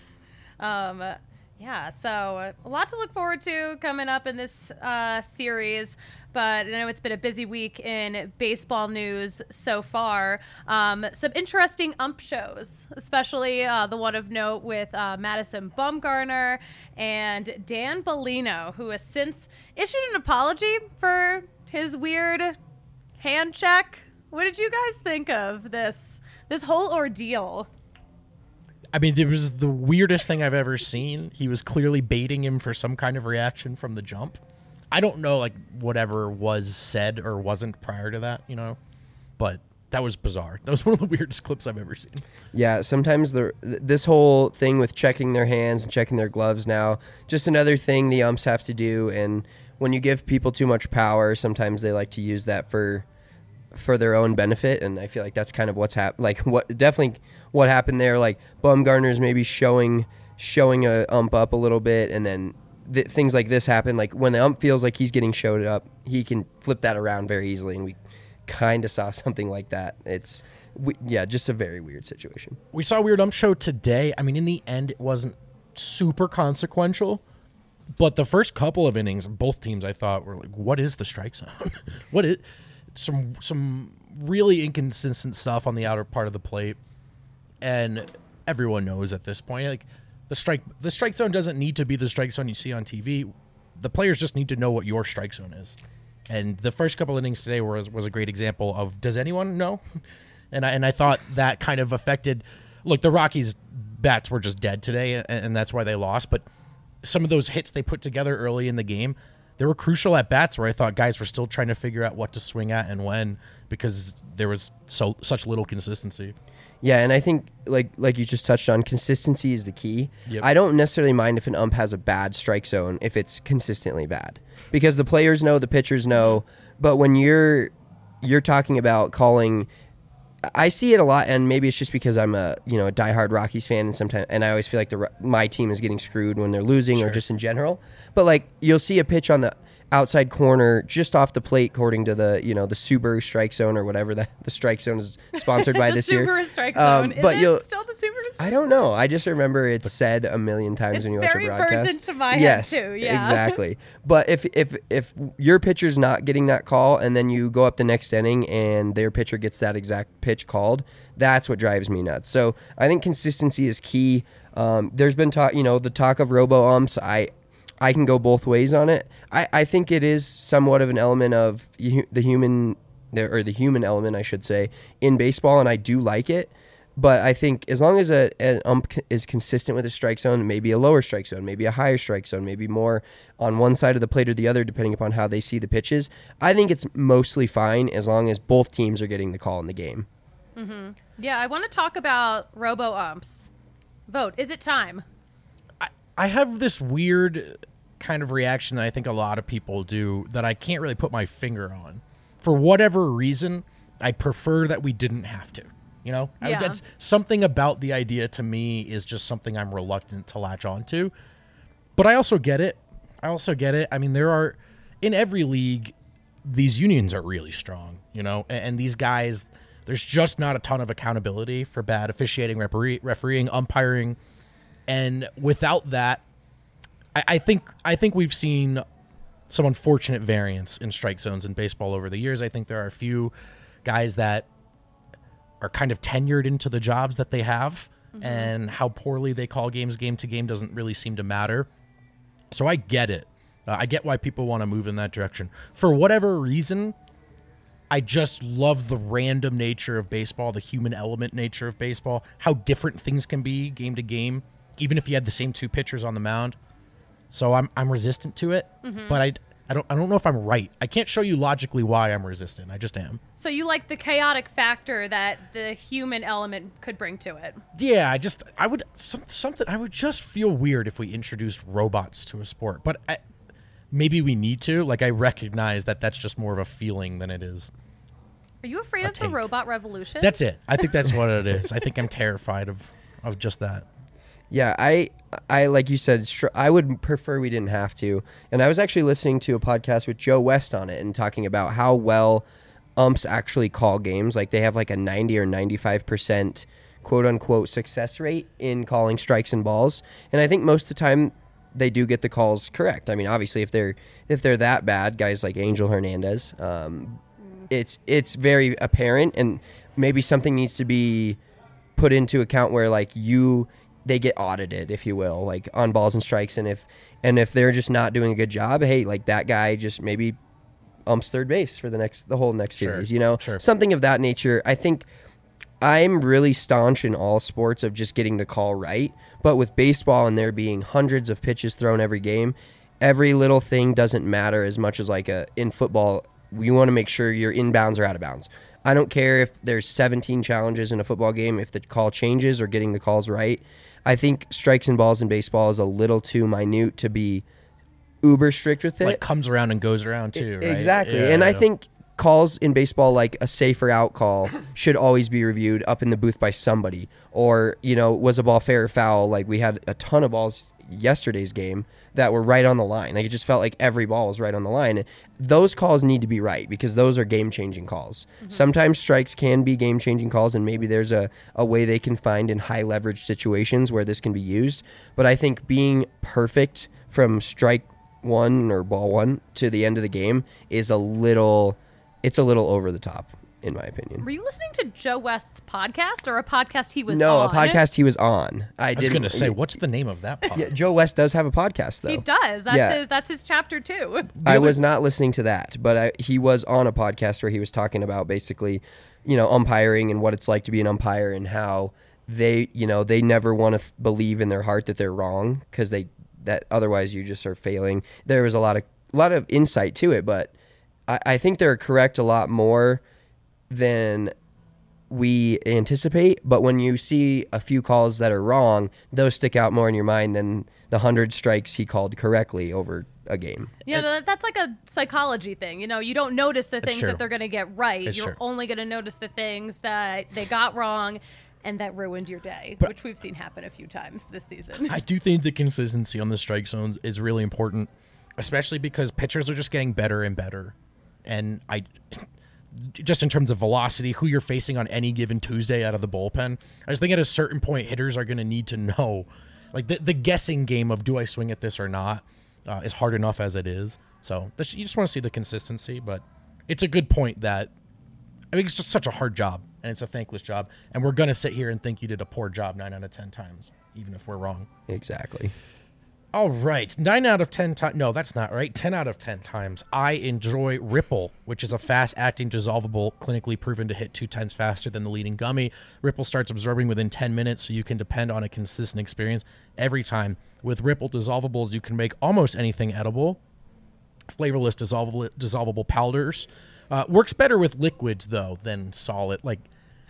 Um, yeah, so a lot to look forward to coming up in this uh, series, but I know it's been a busy week in baseball news so far. Um, some interesting ump shows, especially uh, the one of note with uh, Madison Bumgarner and Dan Bellino, who has since issued an apology for his weird hand check. What did you guys think of this this whole ordeal? I mean, it was the weirdest thing I've ever seen. He was clearly baiting him for some kind of reaction from the jump. I don't know, like, whatever was said or wasn't prior to that, you know, but that was bizarre. That was one of the weirdest clips I've ever seen. Yeah, sometimes the this whole thing with checking their hands and checking their gloves now, just another thing the umps have to do. And when you give people too much power, sometimes they like to use that for for their own benefit. And I feel like that's kind of what's happened. Like, what definitely what happened there. Like, Bumgarner's maybe showing showing a ump up a little bit, and then th- things like this happen. Like, when the ump feels like he's getting showed up, he can flip that around very easily, and we kind of saw something like that. It's we, yeah, just a very weird situation. We saw a weird ump show today. I mean, in the end, it wasn't super consequential, but the first couple of innings, both teams, I thought, were like, what is the strike zone? What is some some really inconsistent stuff on the outer part of the plate, and everyone knows at this point, like, the strike the strike zone doesn't need to be the strike zone you see on T V. The players just need to know what your strike zone is. And the first couple innings today was was a great example of, does anyone know? And I and I thought that kind of affected. Look, the Rockies' bats were just dead today, and, and that's why they lost. But some of those hits they put together early in the game, they were crucial at bats where I thought guys were still trying to figure out what to swing at and when, because there was so such little consistency. Yeah, and I think, like like you just touched on, consistency is the key. Yep. I don't necessarily mind if an ump has a bad strike zone if it's consistently bad, because the players know, the pitchers know. But when you're you're talking about calling, I see it a lot, and maybe it's just because I'm a you know a diehard Rockies fan, and sometimes and I always feel like the my team is getting screwed when they're losing, Sure. or just in general. But like, you'll see a pitch on the outside corner just off the plate, according to the you know the Subaru Strike Zone or whatever that the Strike Zone is sponsored by the this Subaru year. Subaru Strike Zone. Um, is but it you'll- still the Subaru Strike I don't Zone? know. I just remember it's said a million times It's when you watch a very broadcast. burned into my head, yes, too, yeah. exactly. But if if if your pitcher's not getting that call, and then you go up the next inning and their pitcher gets that exact pitch called, that's what drives me nuts. So I think consistency is key. Um, there's been talk, you know, the talk of robo umps. I I can go both ways on it. I, I think it is somewhat of an element of hu- the human, or the human element, I should say, in baseball, and I do like it. But I think as long as a, an ump c- is consistent with a strike zone, maybe a lower strike zone, maybe a higher strike zone, maybe more on one side of the plate or the other, depending upon how they see the pitches, I think it's mostly fine as long as both teams are getting the call in the game. Mm-hmm. Yeah, I want to talk about robo umps. Vote. Is it time? I have this weird kind of reaction that I think a lot of people do that I can't really put my finger on. For whatever reason, I prefer that we didn't have to. You know, I, Yeah. that's something about the idea to me is just something I'm reluctant to latch onto. But I also get it. I also get it. I mean, there are in every league, these unions are really strong, you know, and, and these guys, there's just not a ton of accountability for bad officiating, referee, refereeing, umpiring. And without that, I, I think I think we've seen some unfortunate variance in strike zones in baseball over the years. I think there are a few guys that are kind of tenured into the jobs that they have, mm-hmm. and how poorly they call games game to game doesn't really seem to matter. So I get it. Uh, I get why people want to move in that direction. For whatever reason, I just love the random nature of baseball, the human element nature of baseball, how different things can be game to game, even if you had the same two pitchers on the mound. So I'm I'm resistant to it, mm-hmm. but I, I don't I don't know if I'm right. I can't show you logically why I'm resistant. I just am. So you like the chaotic factor that the human element could bring to it? Yeah, I just I would some, something I would just feel weird if we introduced robots to a sport, but I, maybe we need to. Like, I recognize that that's just more of a feeling than it is. Are you afraid of take. the robot revolution? That's it. I think that's what it is. I think I'm terrified of of just that. Yeah, I, I like you said, str- I would prefer we didn't have to. And I was actually listening to a podcast with Joe West on it and talking about how well umps actually call games. Like, they have like a ninety or ninety-five percent quote unquote success rate in calling strikes and balls. And I think most of the time they do get the calls correct. I mean, obviously, if they're if they're that bad, guys like Angel Hernandez, um, it's it's very apparent, and maybe something needs to be put into account where like you. They get audited, if you will, like on balls and strikes. And if and if they're just not doing a good job, hey, like that guy just maybe umps third base for the next the whole next Sure, series, you know, sure. something of that nature. I think I'm really staunch in all sports of just getting the call right. But with baseball and there being hundreds of pitches thrown every game, every little thing doesn't matter as much as like a in football. You want to make sure you're inbounds or out of bounds. I don't care if there's seventeen challenges in a football game, if the call changes or getting the calls right. I think strikes and balls in baseball is a little too minute to be uber strict with it. Like, comes around and goes around too, right? Exactly. Yeah, and I yeah. think calls in baseball, like a safer out call, should always be reviewed up in the booth by somebody. Or, you know, was a ball fair or foul? Like, we had a ton of balls yesterday's game that were right on the line. Like, it just felt like every ball was right on the line. Those calls need to be right because those are game-changing calls. Mm-hmm. Sometimes strikes can be game-changing calls, and maybe there's a, a way they can find in high-leverage situations where this can be used. But I think being perfect from strike one or ball one to the end of the game is a little, it's a little over the top, in my opinion. Were you listening to Joe West's podcast or a podcast he was no, on? a podcast he was on. I, I was didn't going to say, what's the name of that podcast? Yeah, Joe West does have a podcast, though. He does. That's Yeah. his that's his chapter two. I was not listening to that, but I, he was on a podcast where he was talking about basically, you know, umpiring and what it's like to be an umpire and how they, you know, they never want to th- believe in their heart that they're wrong because they that otherwise you just are failing. There was a lot of a lot of insight to it, but I, I think they're correct a lot more than we anticipate. But when you see a few calls that are wrong, those stick out more in your mind than the hundred strikes he called correctly over a game. Yeah, that, that's like a psychology thing. You know, you don't notice the things true. that they're going to get right. It's You're true. only going to notice the things that they got wrong and that ruined your day, But- which we've seen happen a few times this season. I do think the consistency on the strike zones is really important, especially because pitchers are just getting better and better. And I, just in terms of velocity, who you're facing on any given Tuesday out of the bullpen, I just think at a certain point, hitters are going to need to know, like the, the guessing game of do I swing at this or not uh, is hard enough as it is. So this, you just want to see the consistency, but it's a good point that, I mean, it's just such a hard job, and it's a thankless job, and we're going to sit here and think you did a poor job nine out of ten times, even if we're wrong. Exactly. All right, nine out of ten times. No, that's not right. ten out of ten times. I enjoy Ripple, which is a fast-acting, dissolvable, clinically proven to hit two times faster than the leading gummy. Ripple starts absorbing within ten minutes, so you can depend on a consistent experience every time. With Ripple dissolvables, you can make almost anything edible. Flavorless dissolvable, dissolvable powders. Uh, works better with liquids, though, than solid. Like,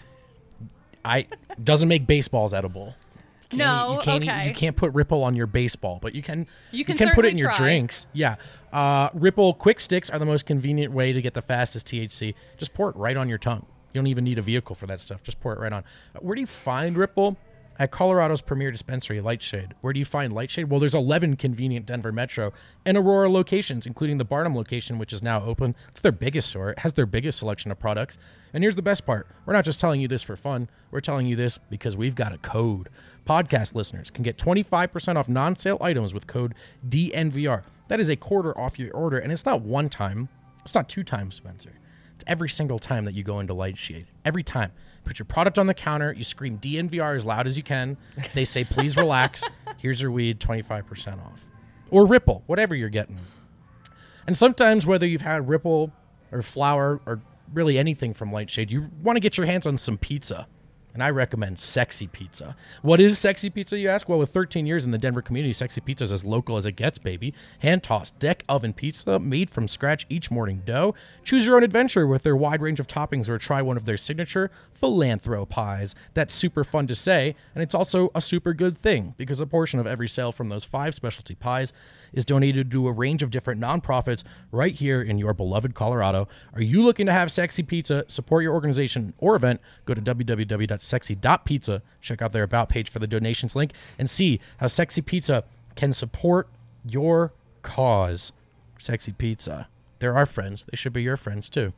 I doesn't make baseballs edible. Can't, No, you can't okay. eat, you can't put Ripple on your baseball, but you can You can put it certainly in your try. drinks. Yeah. Uh, Ripple Quick Sticks are the most convenient way to get the fastest T H C. Just pour it right on your tongue. You don't even need a vehicle for that stuff. Just pour it right on. Uh, where do you find Ripple? At Colorado's premier dispensary, Lightshade. Where do you find Lightshade? Well, there's eleven convenient Denver Metro and Aurora locations, including the Barnum location, which is now open. It's their biggest store. It has their biggest selection of products. And here's the best part. We're not just telling you this for fun. We're telling you this because we've got a code. Podcast listeners can get twenty-five percent off non-sale items with code D N V R. That is a quarter off your order, and it's not one time. It's not two times, Spencer. It's every single time that you go into Lightshade. Every time. Put your product on the counter. You scream D N V R as loud as you can. They say, please relax. Here's your weed, twenty-five percent off. Or Ripple, whatever you're getting. And sometimes, whether you've had Ripple or flour or really anything from Lightshade, you want to get your hands on some pizza. And I recommend Sexy Pizza. What is Sexy Pizza, you ask? Well, with thirteen years in the Denver community, Sexy Pizza is as local as it gets, baby. Hand-tossed deck oven pizza made from scratch each morning dough. Choose your own adventure with their wide range of toppings or try one of their signature Philanthro pies. That's super fun to say, and it's also a super good thing because a portion of every sale from those five specialty pies is donated to a range of different nonprofits right here in your beloved Colorado. Are you looking to have Sexy Pizza, support your organization or event? Go to w w w dot sexy dot pizza, check out their About page for the donations link, and see how Sexy Pizza can support your cause. Sexy Pizza. They're our friends. They should be your friends, too.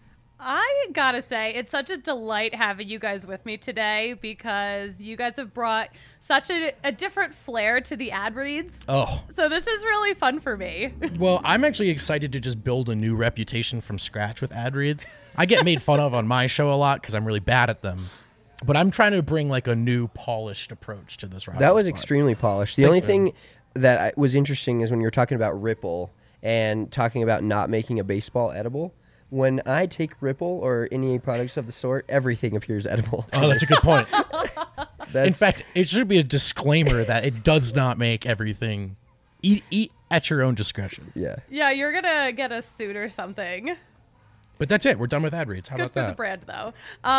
I gotta say, it's such a delight having you guys with me today because you guys have brought such a, a different flair to the ad reads. Oh. So this is really fun for me. Well, I'm actually excited to just build a new reputation from scratch with ad reads. I get made fun of on my show a lot because I'm really bad at them. But I'm trying to bring like a new polished approach to this. That was spot. extremely polished. The Thanks, only man. thing that I, was interesting is when you were talking about Ripple and talking about not making a baseball edible. When I take Ripple or any products of the sort, everything appears edible. Oh, that's a good point. That's, In fact, it should be a disclaimer that it does not make everything. Eat, eat at your own discretion. yeah. Yeah, you're gonna get a suit or something. But that's it. We're done with ad reads. How Good about for that? the brand, though.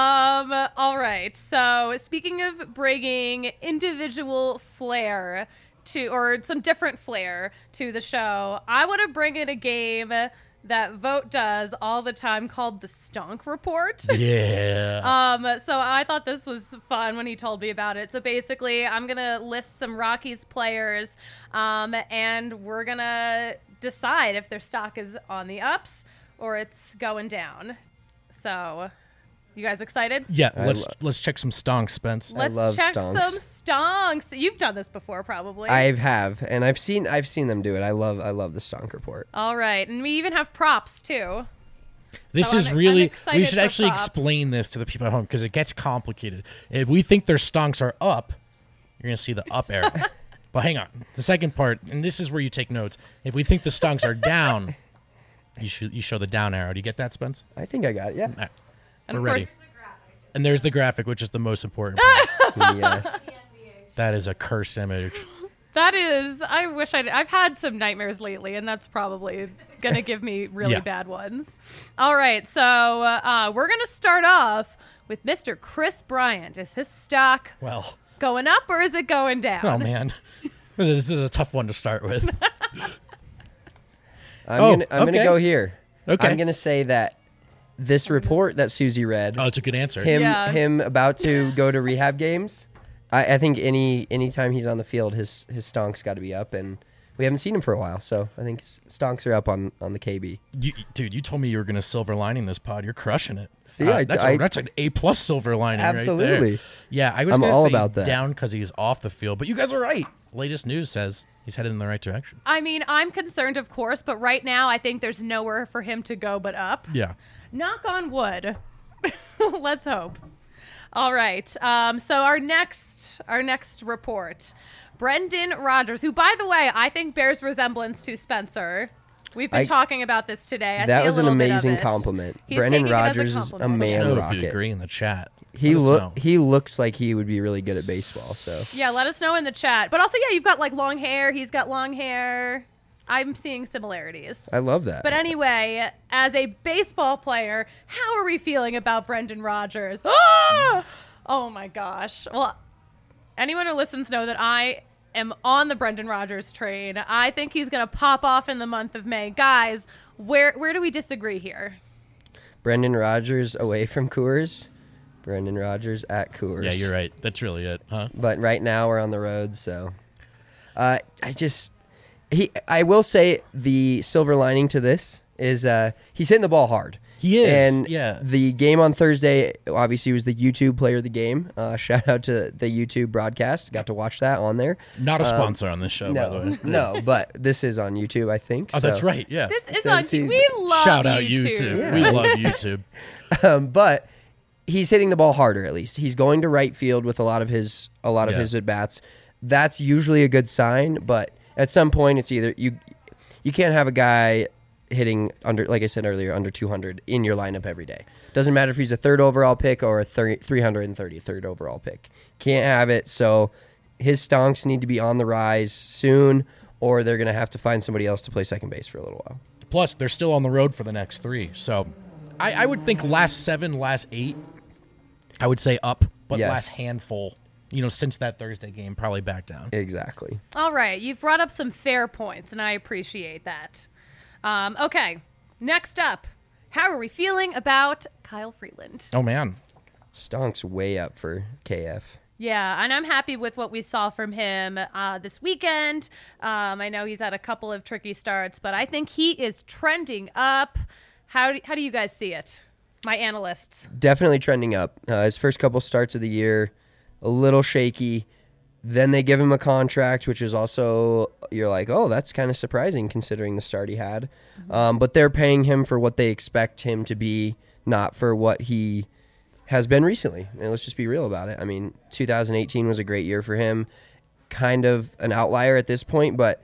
Um, all right. So, speaking of bringing individual flair to, or some different flair to the show, I want to bring in a game that Vote does all the time called the Stonk Report. Yeah. Um, so I thought this was fun when he told me about it. So basically, I'm gonna list some Rockies players, um, and we're gonna decide if their stock is on the ups or it's going down. So, you guys excited? yeah. I Let's lo- let's check some stonks, Spence. Let's love check stonks. some stonks. You've done this before, probably. I have, and I've seen I've seen them do it. I love I love the Stonk Report. All right, and we even have props too. This So is I'm- I'm really. excited We should for actually props. explain this to the people at home because it gets complicated. If we think their stonks are up, you're gonna see the up arrow. But hang on, the second part, and this is where you take notes. If we think the stonks are down, you should you show the down arrow. Do you get that, Spence? I think I got it. Yeah. All right, And we're of ready. course, And there's the graphic, which is the most important part. Yes. That is a cursed image. that is. I wish I'd. I've had some nightmares lately, and that's probably gonna give me really Yeah. bad ones. All right, so uh, we're gonna start off with Mister Chris Bryant. Is his stock Well, going up or is it going down? oh man, this is, this is a tough one to start with. I'm Oh, gonna I'm okay. gonna go here. Okay. I'm gonna say that this report that Susie read, Oh, it's a good answer. him Yeah. him about to go to rehab games. I, I think any anytime he's on the field, his his stonk's got to be up, and we haven't seen him for a while, so I think s- stonks are up on, on the K B. You, dude, you told me you were going to silver lining this pod. You're crushing it. See, Uh, I- that's, I- a, that's an A plus silver lining right Absolutely. there. Yeah, I was I'm gonna all say about that. down because he's off the field, but you guys are right. Latest news says he's headed in the right direction. I mean, I'm concerned, of course, but right now I think there's nowhere for him to go but up. Yeah. Knock on wood. Let's hope. All right. Um, so our next our next report, Brendan Rodgers, who, by the way, I think bears resemblance to Spencer. We've been I- talking about this today. I That see a was an little bit of amazing it. compliment. He's Brendan taking it as Rodgers is a compliment. Let us man know if rocket. you agree in the chat. He Let us look know. he looks like he would be really good at baseball. So Yeah, let us know in the chat. But also, yeah, you've got like long hair. He's got long hair. I'm seeing similarities. I love that. But anyway, as a baseball player, how are we feeling about Brendan Rodgers? Ah! Oh my gosh. Well, anyone who listens know that I am on the Brendan Rodgers train. I think he's going to pop off in the month of May. Guys, where where do we disagree here? Brendan Rodgers away from Coors. Brendan Rodgers at Coors. Yeah, you're right. That's really it, huh? But right now we're on the road, so uh, I just he. I will say the silver lining to this is uh, he's hitting the ball hard. He is, And yeah. the game on Thursday obviously was the YouTube player of the game. Uh, shout out to the YouTube broadcast. Got to watch that on there. Not a sponsor on this show, by the No, way. no, but this is on YouTube, I think. Oh, so. that's right. Yeah. This is So on. see- We love Shout out YouTube. YouTube. Yeah. We love YouTube. Um, but he's hitting the ball harder. At least he's going to right field with a lot of his a lot of Yeah. his at bats. That's usually a good sign. But at some point, it's either you you can't have a guy hitting under, like I said earlier, under two hundred in your lineup every day. Doesn't matter if he's a third overall pick or a three hundred thirty-third overall pick. Can't have it. So his stonks need to be on the rise soon, or they're going to have to find somebody else to play second base for a little while. Plus, they're still on the road for the next three. So I, I would think last seven, last eight, I would say up, but Yes. last handful, you know, since that Thursday game, probably back down. Exactly. All right, you've brought up some fair points, and I appreciate that. Um, okay, next up, how are we feeling about Kyle Freeland? Oh, man. Stonks way up for K F. Yeah, and I'm happy with what we saw from him uh, this weekend. Um, I know he's had a couple of tricky starts, but I think he is trending up. How do, how do you guys see it, my analysts? Definitely trending up. Uh, his first couple starts of the year, a little shaky. Then they give him a contract, which is also, you're like, oh, that's kind of surprising considering the start he had. Um, but they're paying him for what they expect him to be, not for what he has been recently. And let's just be real about it. I mean, two thousand eighteen was a great year for him. Kind of an outlier at this point, but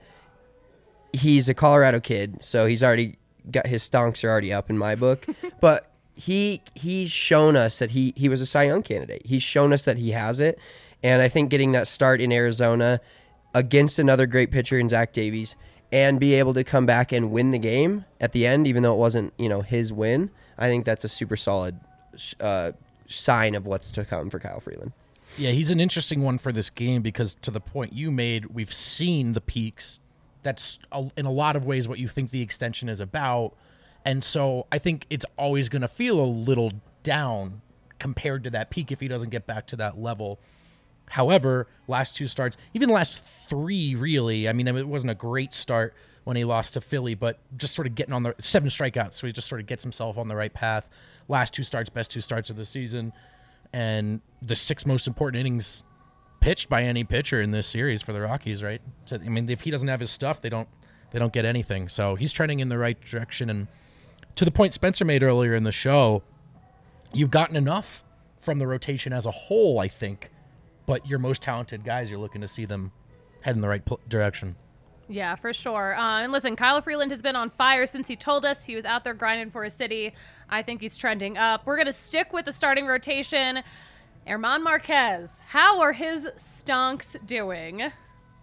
he's a Colorado kid, so he's already got his stonks are already up in my book. But he he's shown us that he he was a Cy Young candidate. He's shown us that he has it. And I think getting that start in Arizona against another great pitcher in Zach Davies and be able to come back and win the game at the end, even though it wasn't, you know, his win, I think that's a super solid uh, sign of what's to come for Kyle Freeland. Yeah, he's an interesting one for this game because to the point you made, we've seen the peaks. That's a, in a lot of ways what you think the extension is about. And so I think it's always going to feel a little down compared to that peak if he doesn't get back to that level. However, last two starts, even the last three, really, I mean, it wasn't a great start when he lost to Philly, but just sort of getting on the seven strikeouts. So he just sort of gets himself on the right path. Last two starts, best two starts of the season. And the six most important innings pitched by any pitcher in this series for the Rockies, right? So, I mean, if he doesn't have his stuff, they don't they don't get anything. So he's trending in the right direction. And to the point Spencer made earlier in the show, you've gotten enough from the rotation as a whole, I think. But your most talented guys, you're looking to see them head in the right pl- direction. Yeah, for sure. Uh, and listen, Kyle Freeland has been on fire since he told us he was out there grinding for his city. I think he's trending up. We're going to stick with the starting rotation. Herman Marquez, how are his stonks doing?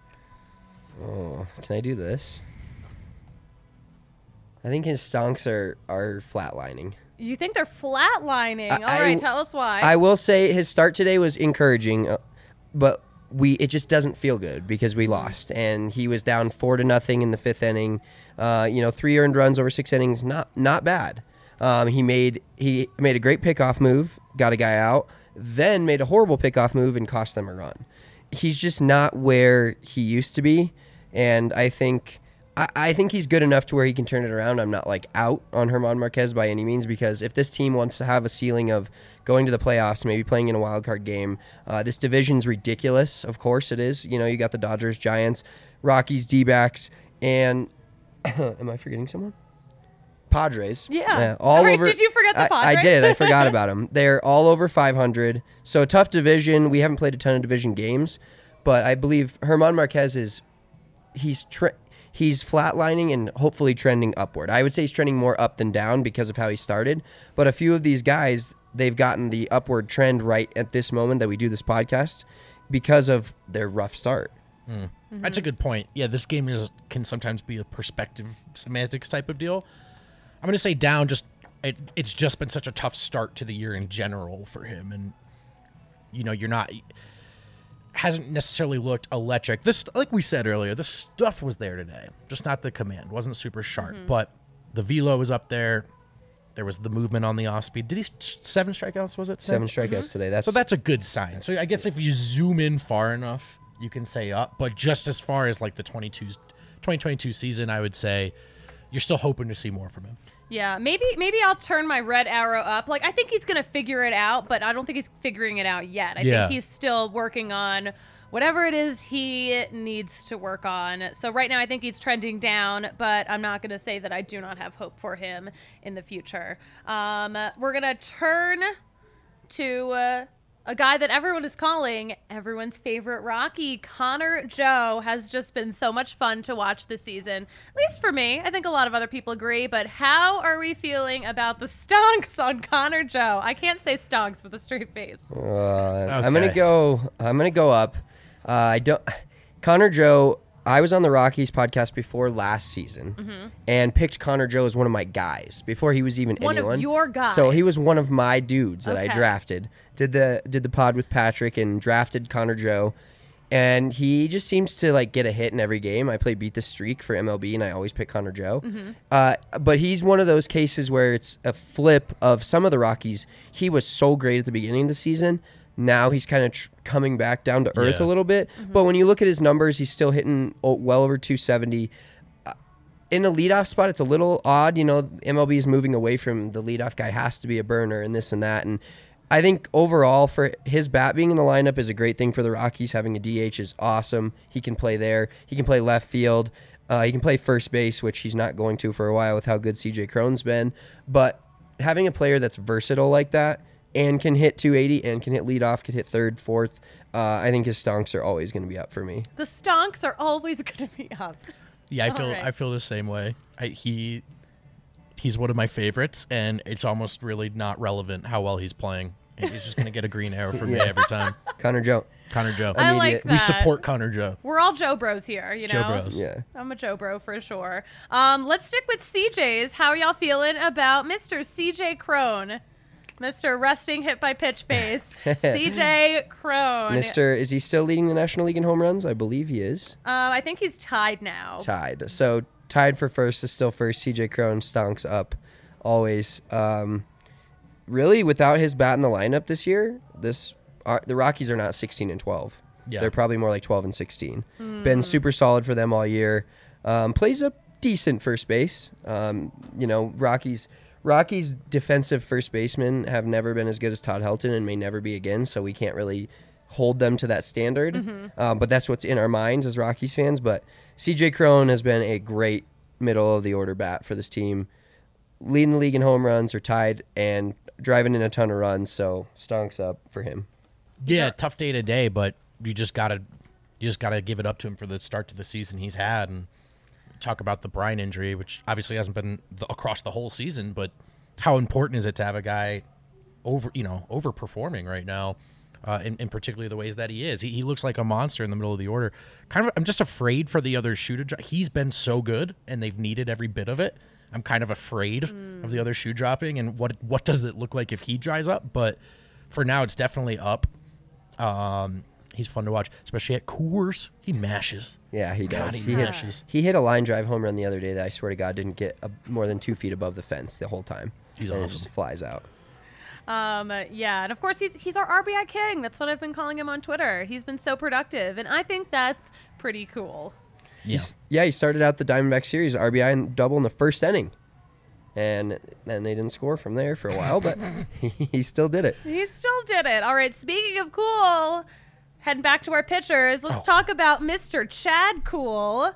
Oh, can I do this? I think his stonks are, are flatlining. You think they're flatlining? I- All right, I- tell us why. I will say his start today was encouraging, uh, but we it just doesn't feel good because we lost, and he was down four to nothing in the fifth inning. Uh, you know, three earned runs over six innings, not not bad. Um, he made he made a great pickoff move, got a guy out, then made a horrible pickoff move and cost them a run. He's just not where he used to be. And I think I, I think he's good enough to where he can turn it around. I'm not like out on German Marquez by any means, because if this team wants to have a ceiling of going to the playoffs, maybe playing in a wild card game, uh, this division's ridiculous. Of course it is. You know, you got the Dodgers, Giants, Rockies, D-backs, and am I forgetting someone? Padres. Yeah. all Sorry, over. did you forget the I- Padres? I, did. I forgot about them. They're all over five hundred. So tough division. We haven't played a ton of division games, but I believe German Marquez is he's tre- he's flatlining and hopefully trending upward. I would say he's trending more up than down because of how he started. But a few of these guys, they've gotten the upward trend right at this moment that we do this podcast because of their rough start. Mm. Mm-hmm. That's a good point. Yeah, this game is, can sometimes be a perspective semantics type of deal. I'm going to say down, just it, it's just been such a tough start to the year in general for him. And, you know, you're not, hasn't necessarily looked electric. This, like we said earlier, the stuff was there today, just not the command. Wasn't super sharp, mm-hmm. but the velo was up there. There was the movement on the off speed. Did he, seven strikeouts, was it today? Seven strikeouts mm-hmm. today. That's So that's a good sign. So I guess if you zoom in far enough, you can say up. But just as far as like the twenty twenty-two season, I would say you're still hoping to see more from him. Yeah, maybe maybe I'll turn my red arrow up. Like, I think he's going to figure it out, but I don't think he's figuring it out yet. I Yeah. think he's still working on whatever it is he needs to work on. So right now I think he's trending down, but I'm not going to say that I do not have hope for him in the future. Um, we're going to turn to uh, a guy that everyone is calling everyone's favorite Rocky. Connor Joe has just been so much fun to watch this season, at least for me. I think a lot of other people agree, but how are we feeling about the stonks on Connor Joe? I can't say stonks with a straight face. Uh, I'm Okay. gonna go. I'm gonna go up. Uh, I don't. Connor Joe. I was on the Rockies podcast before last season Mm-hmm. and picked Connor Joe as one of my guys before he was even One of anyone. your guys. So he was one of my dudes that I Okay. drafted. Did the did the pod with Patrick and drafted Connor Joe, and he just seems to like get a hit in every game. I play Beat the Streak for M L B, and I always pick Connor Joe. Mm-hmm. Uh, but he's one of those cases where it's a flip of some of the Rockies. He was so great at the beginning of the season. Now he's kind of tr- coming back down to earth Yeah. a little bit. Mm-hmm. But when you look at his numbers, he's still hitting oh, well over two seventy. Uh, in a leadoff spot, it's a little odd. You know, M L B is moving away from the leadoff guy has to be a burner and this and that. And I think overall for his bat being in the lineup is a great thing for the Rockies. Having a D H is awesome. He can play there. He can play left field. Uh, he can play first base, which he's not going to for a while with how good C J Cron's been. But having a player that's versatile like that and can hit two eighty and can hit leadoff, can hit third, fourth, uh, I think his stonks are always going to be up for me. The stonks are always going to be up. Yeah, I feel All right. I feel the same way. I, he he's one of my favorites, and it's almost really not relevant how well he's playing. He's just going to get a green arrow from me every time. Connor Joe. Connor Joe. I Immediate. like that. We support Connor Joe. We're all Joe Bros here, you know? Joe Bros. Yeah. I'm a Joe Bro for sure. Um, let's stick with C J's. How are y'all feeling about Mister C J Crone? Mister Resting Hit by Pitch Face. C J Crone. Mister Is he still leading the National League in home runs? I believe he is. Um, I think he's tied now. Tied. So tied for first is still first. C J Crone stonks up always. Um, really, without his bat in the lineup this year, this uh, the Rockies are not sixteen and twelve. Yeah. They're probably more like twelve and sixteen. Hmm. Been super solid for them all year. Um, plays a decent first base. Um, you know, Rockies Rockies defensive first basemen have never been as good as Todd Helton and may never be again, so we can't really hold them to that standard. Mm-hmm. Um, but that's what's in our minds as Rockies fans. But C J Crone has been a great middle of the order bat for this team. Leading the league in home runs or tied and driving in a ton of runs, so stonks up for him. Yeah, tough day today, but you just gotta you just gotta give it up to him for the start to the season he's had, and talk about the Bryant injury, which obviously hasn't been the, across the whole season, but how important is it to have a guy over you know overperforming right now, uh, in, in particularly the ways that he is. He, he looks like a monster in the middle of the order. Kind of, I'm just afraid for the other shoe to drop. He's been so good, and they've needed every bit of it. I'm kind of afraid mm. of the other shoe dropping, and what what does it look like if he dries up? But for now, it's definitely up. Um, he's fun to watch, especially at Coors. He mashes. Yeah, he God, does. he he, hit, mashes. he hit a line drive home run the other day that I swear to God didn't get a, more than two feet above the fence the whole time. He's and awesome. It just flies out. Um, yeah, and of course he's he's our R B I king. That's what I've been calling him on Twitter. He's been so productive, and I think that's pretty cool. Yeah. He's, yeah, he started out the Diamondback series R B I and double in the first inning, and then they didn't score from there for a while, but he, he still did it. He still did it. All right, speaking of cool, heading back to our pitchers, let's Oh. talk about Mister Chad Cool.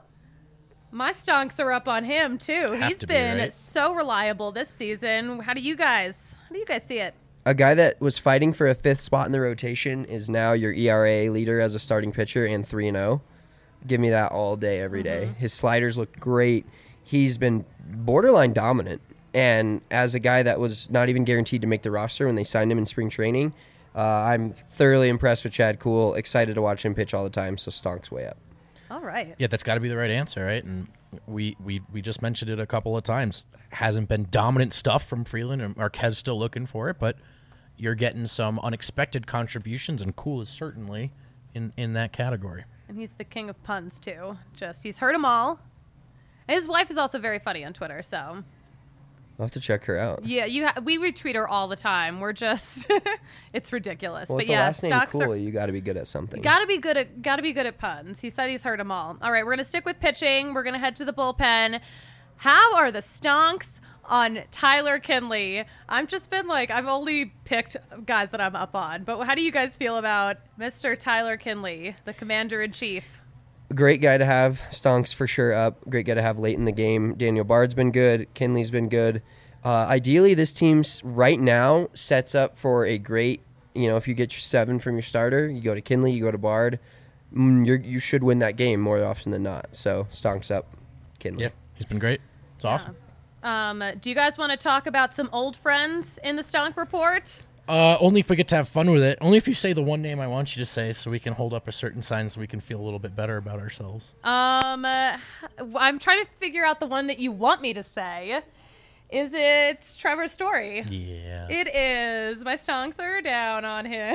My stonks are up on him too. Have He's to be, been right? so reliable this season. How do you guys? How do you guys see it? A guy that was fighting for a fifth spot in the rotation is now your E R A leader as a starting pitcher and three and oh. Give me that all day, every day. Mm-hmm. His sliders look great. He's been borderline dominant. And as a guy that was not even guaranteed to make the roster when they signed him in spring training, uh, I'm thoroughly impressed with Chad Cool. Excited to watch him pitch all the time, so Stonk's way up. All right. Yeah, that's got to be the right answer, right? And we, we we just mentioned it a couple of times. Hasn't been dominant stuff from Freeland, and Marquez still looking for it, but you're getting some unexpected contributions, and Cool is certainly in, in that category. And he's the king of puns too. Just he's heard them all. His wife is also very funny on Twitter, so I'll have to check her out. yeah, you ha- we retweet her all the time. We're just it's ridiculous. Well, but with the yeah, last name stocks Cool, are you got to be good at something. Got to be good at got to be good at puns. He said he's heard them all. All right, we're gonna stick with pitching. We're gonna head to the bullpen. How are the stonks on Tyler Kinley? I've just been like I've only picked guys that I'm up on, but how do you guys feel about Mister Tyler Kinley, the Commander in Chief? Great guy to have. Stonks for sure up. Great guy to have late in the game. Daniel Bard's been good. Kinley's been good. Uh, ideally, this team's right now sets up for a great, you know, if you get your seven from your starter, you go to Kinley, you go to Bard, mm, you're, you should win that game more often than not. So, Stonks up, Kinley. Yeah, he's been great. It's awesome. Um, do you guys want to talk about some old friends in the Stonk Report? Uh, only if we get to have fun with it. Only if you say the one name I want you to say, so we can hold up a certain sign, so we can feel a little bit better about ourselves. Um, uh, I'm trying to figure out the one that you want me to say. Is it Trevor Story? Yeah. It is. My stonks are down on him.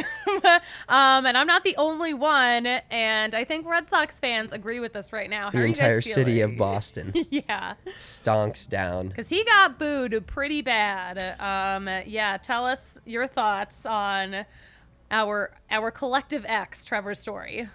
um, and I'm not the only one. And I think Red Sox fans agree with us right now. How The are you entire guys city feeling? of Boston. Yeah. Stonks down. Because he got booed pretty bad. Um, yeah, tell us your thoughts on our our collective ex, Trevor Story.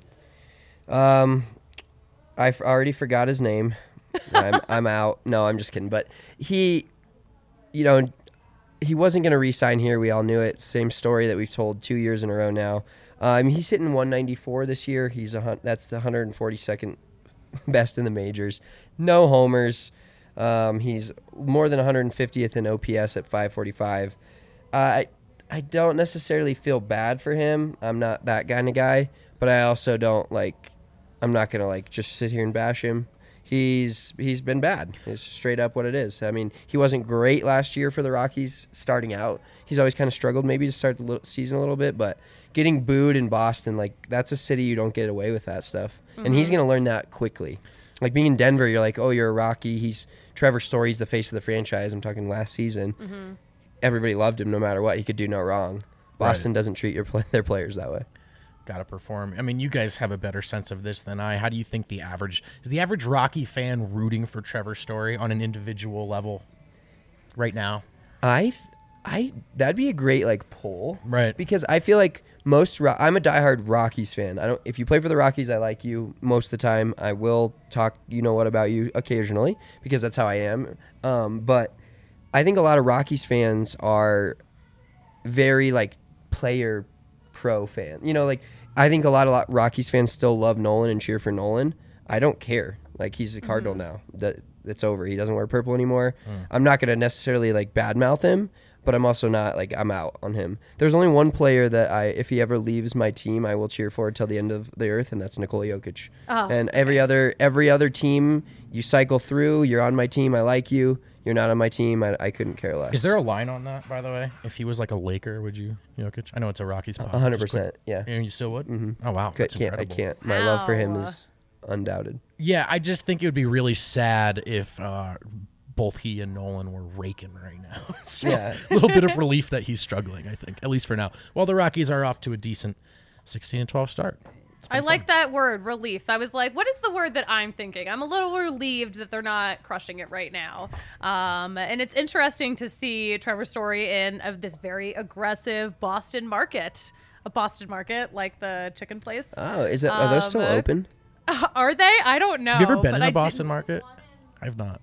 Um, I f- already forgot his name. I'm, I'm out. No, I'm just kidding. But he, you know, he wasn't going to re-sign here. We all knew it. Same story that we've told two years in a row now. Uh, I mean, he's hitting one ninety-four this year. He's a hun- that's the one hundred forty-second best in the majors. No homers. Um, he's more than one hundred fiftieth in O P S at five forty-five. Uh, I I don't necessarily feel bad for him. I'm not that kind of guy, but I also don't like. I'm not gonna like just sit here and bash him. He's he's been bad. It's straight up what it is. I mean, he wasn't great last year for the Rockies starting out. He's always kind of struggled maybe to start the little season a little bit, but getting booed in Boston, like that's a city you don't get away with that stuff. Mm-hmm. And he's going to learn that quickly. Like being in Denver, you're like, oh, you're a Rocky. He's Trevor Story's the face of the franchise. I'm talking last season. Mm-hmm. Everybody loved him no matter what. He could do no wrong. Boston Right. doesn't treat your play- their players that way. Got to perform. I mean, you guys have a better sense of this than I. How do you think the average is the average Rocky fan rooting for Trevor Story on an individual level right now? I, th- I that'd be a great like poll, Right. Because I feel like most Ro- I'm a diehard Rockies fan. I don't. If you play for the Rockies, I like you most of the time. I will talk, you know what, about you occasionally because that's how I am. Um, but I think a lot of Rockies fans are very like player pro fan. You know, like I think a lot of lot Rockies fans still love Nolan and cheer for Nolan. I don't care. Like he's a Cardinal now. That it's over. He doesn't wear purple anymore. Mm. I'm not gonna necessarily like badmouth him, but I'm also not like I'm out on him. There's only one player that I, if he ever leaves my team, I will cheer for till the end of the earth, and that's Nikola Jokic. Oh, and every other every other team you cycle through. You're on my team. I like you. You're not on my team. I, I couldn't care less. Is there a line on that, by the way? If he was like a Laker, would you, Jokic? I know it's a Rocky spot. A hundred Just quick- percent? Yeah. And you still would? Mm-hmm. Oh, wow. Could- That's can't I incredible. can't. My love for him Wow. is undoubted. Yeah, I just think it would be really sad if uh, both he and Nolan were raking right now. So Yeah. a little bit of relief that he's struggling, I think, at least for now. While the Rockies are off to a decent sixteen and twelve start. I like that word, relief. I was like, what is the word that I'm thinking? I'm a little relieved that they're not crushing it right now. Um, and it's interesting to see Trevor Story in uh, this very aggressive Boston market. A Boston market, like the chicken place. Oh, is it? Are those still Um, open? Uh, are they? I don't know. Have you ever been but in a I Boston did- market? I've not.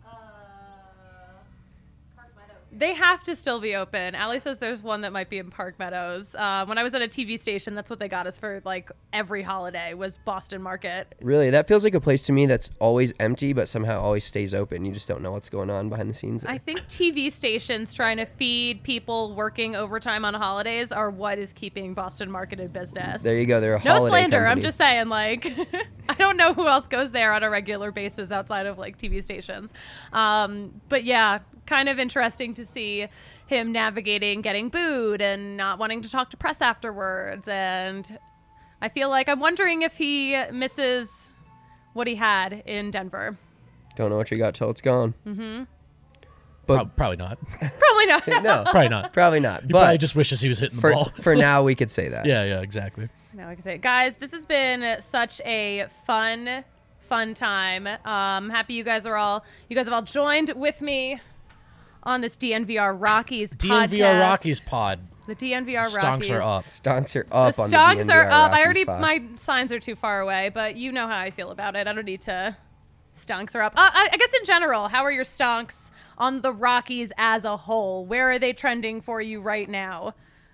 They have to still be open. Allie says there's one that might be in Park Meadows. Uh, when I was at a T V station, that's what they got us for like every holiday was Boston Market. Really, that feels like a place to me that's always empty, but somehow always stays open. You just don't know what's going on behind the scenes there. I think T V stations trying to feed people working overtime on holidays are what is keeping Boston Market in business. There you go. They're a No holiday slander. I'm company. just saying, like, I don't know who else goes there on a regular basis outside of like T V stations. Um, but yeah, kind of interesting to see him navigating getting booed and not wanting to talk to press afterwards. And I feel like I'm wondering if he misses what he had in Denver. Don't know what you got till it's gone. Mm-hmm. But Prob- probably not. Probably not. no, Probably not. probably not. He but probably just wishes he was hitting the for ball. for now, we could say that. Yeah, yeah, exactly. No, I can say, guys, this has been such a fun, fun time. Um, happy you guys are all, you guys have all joined with me on this D N V R Rockies D N V R podcast. Rockies pod. The D N V R Stonks Rockies. are up. Stonks are up The on the stonks D N V R are up. I Rockies already, pod. my signs are too far away, but you know how I feel about it. I don't need to. Stonks are up. Uh, I, I guess in general, how are your stonks on the Rockies as a whole? Where are they trending for you right now?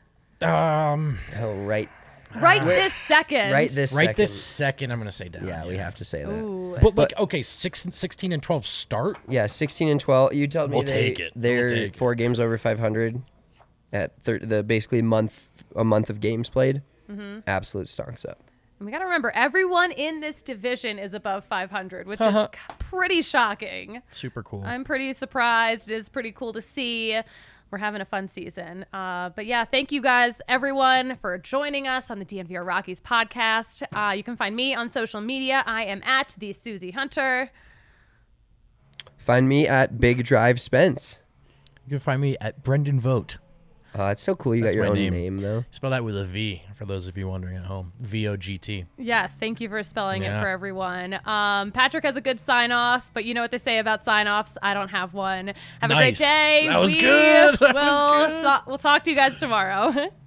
Um, Oh, right, Right this second. right this right second. this second, I'm going to say down. Yeah, we have to say that. Ooh. But, like, okay, six, sixteen and twelve start. Yeah, sixteen and twelve. You told me We'll they, take it. they're We'll take it. four games over five hundred at thir- the basically month a month of games played. Mm-hmm. Absolute stonks up. And we got to remember, everyone in this division is above five hundred, which Uh-huh. is c- pretty shocking. Super cool. I'm pretty surprised. It is pretty cool to see. We're having a fun season. Uh, but yeah, thank you guys, everyone, for joining us on the D N V R Rockies podcast. Uh, you can find me on social media. I am at the Susie Hunter. Find me at Big Drive Spence. You can find me at Brendan Vogt. Uh, it's so cool you That's got your my own name. name, though. Spell that with a V, for those of you wondering at home. V O G T. Yes, thank you for spelling Yeah. it for everyone. Um, Patrick has a good sign off, but you know what they say about sign offs? I don't have one. Have a great Nice. day. That was we good. That was will good. so- we'll talk to you guys tomorrow.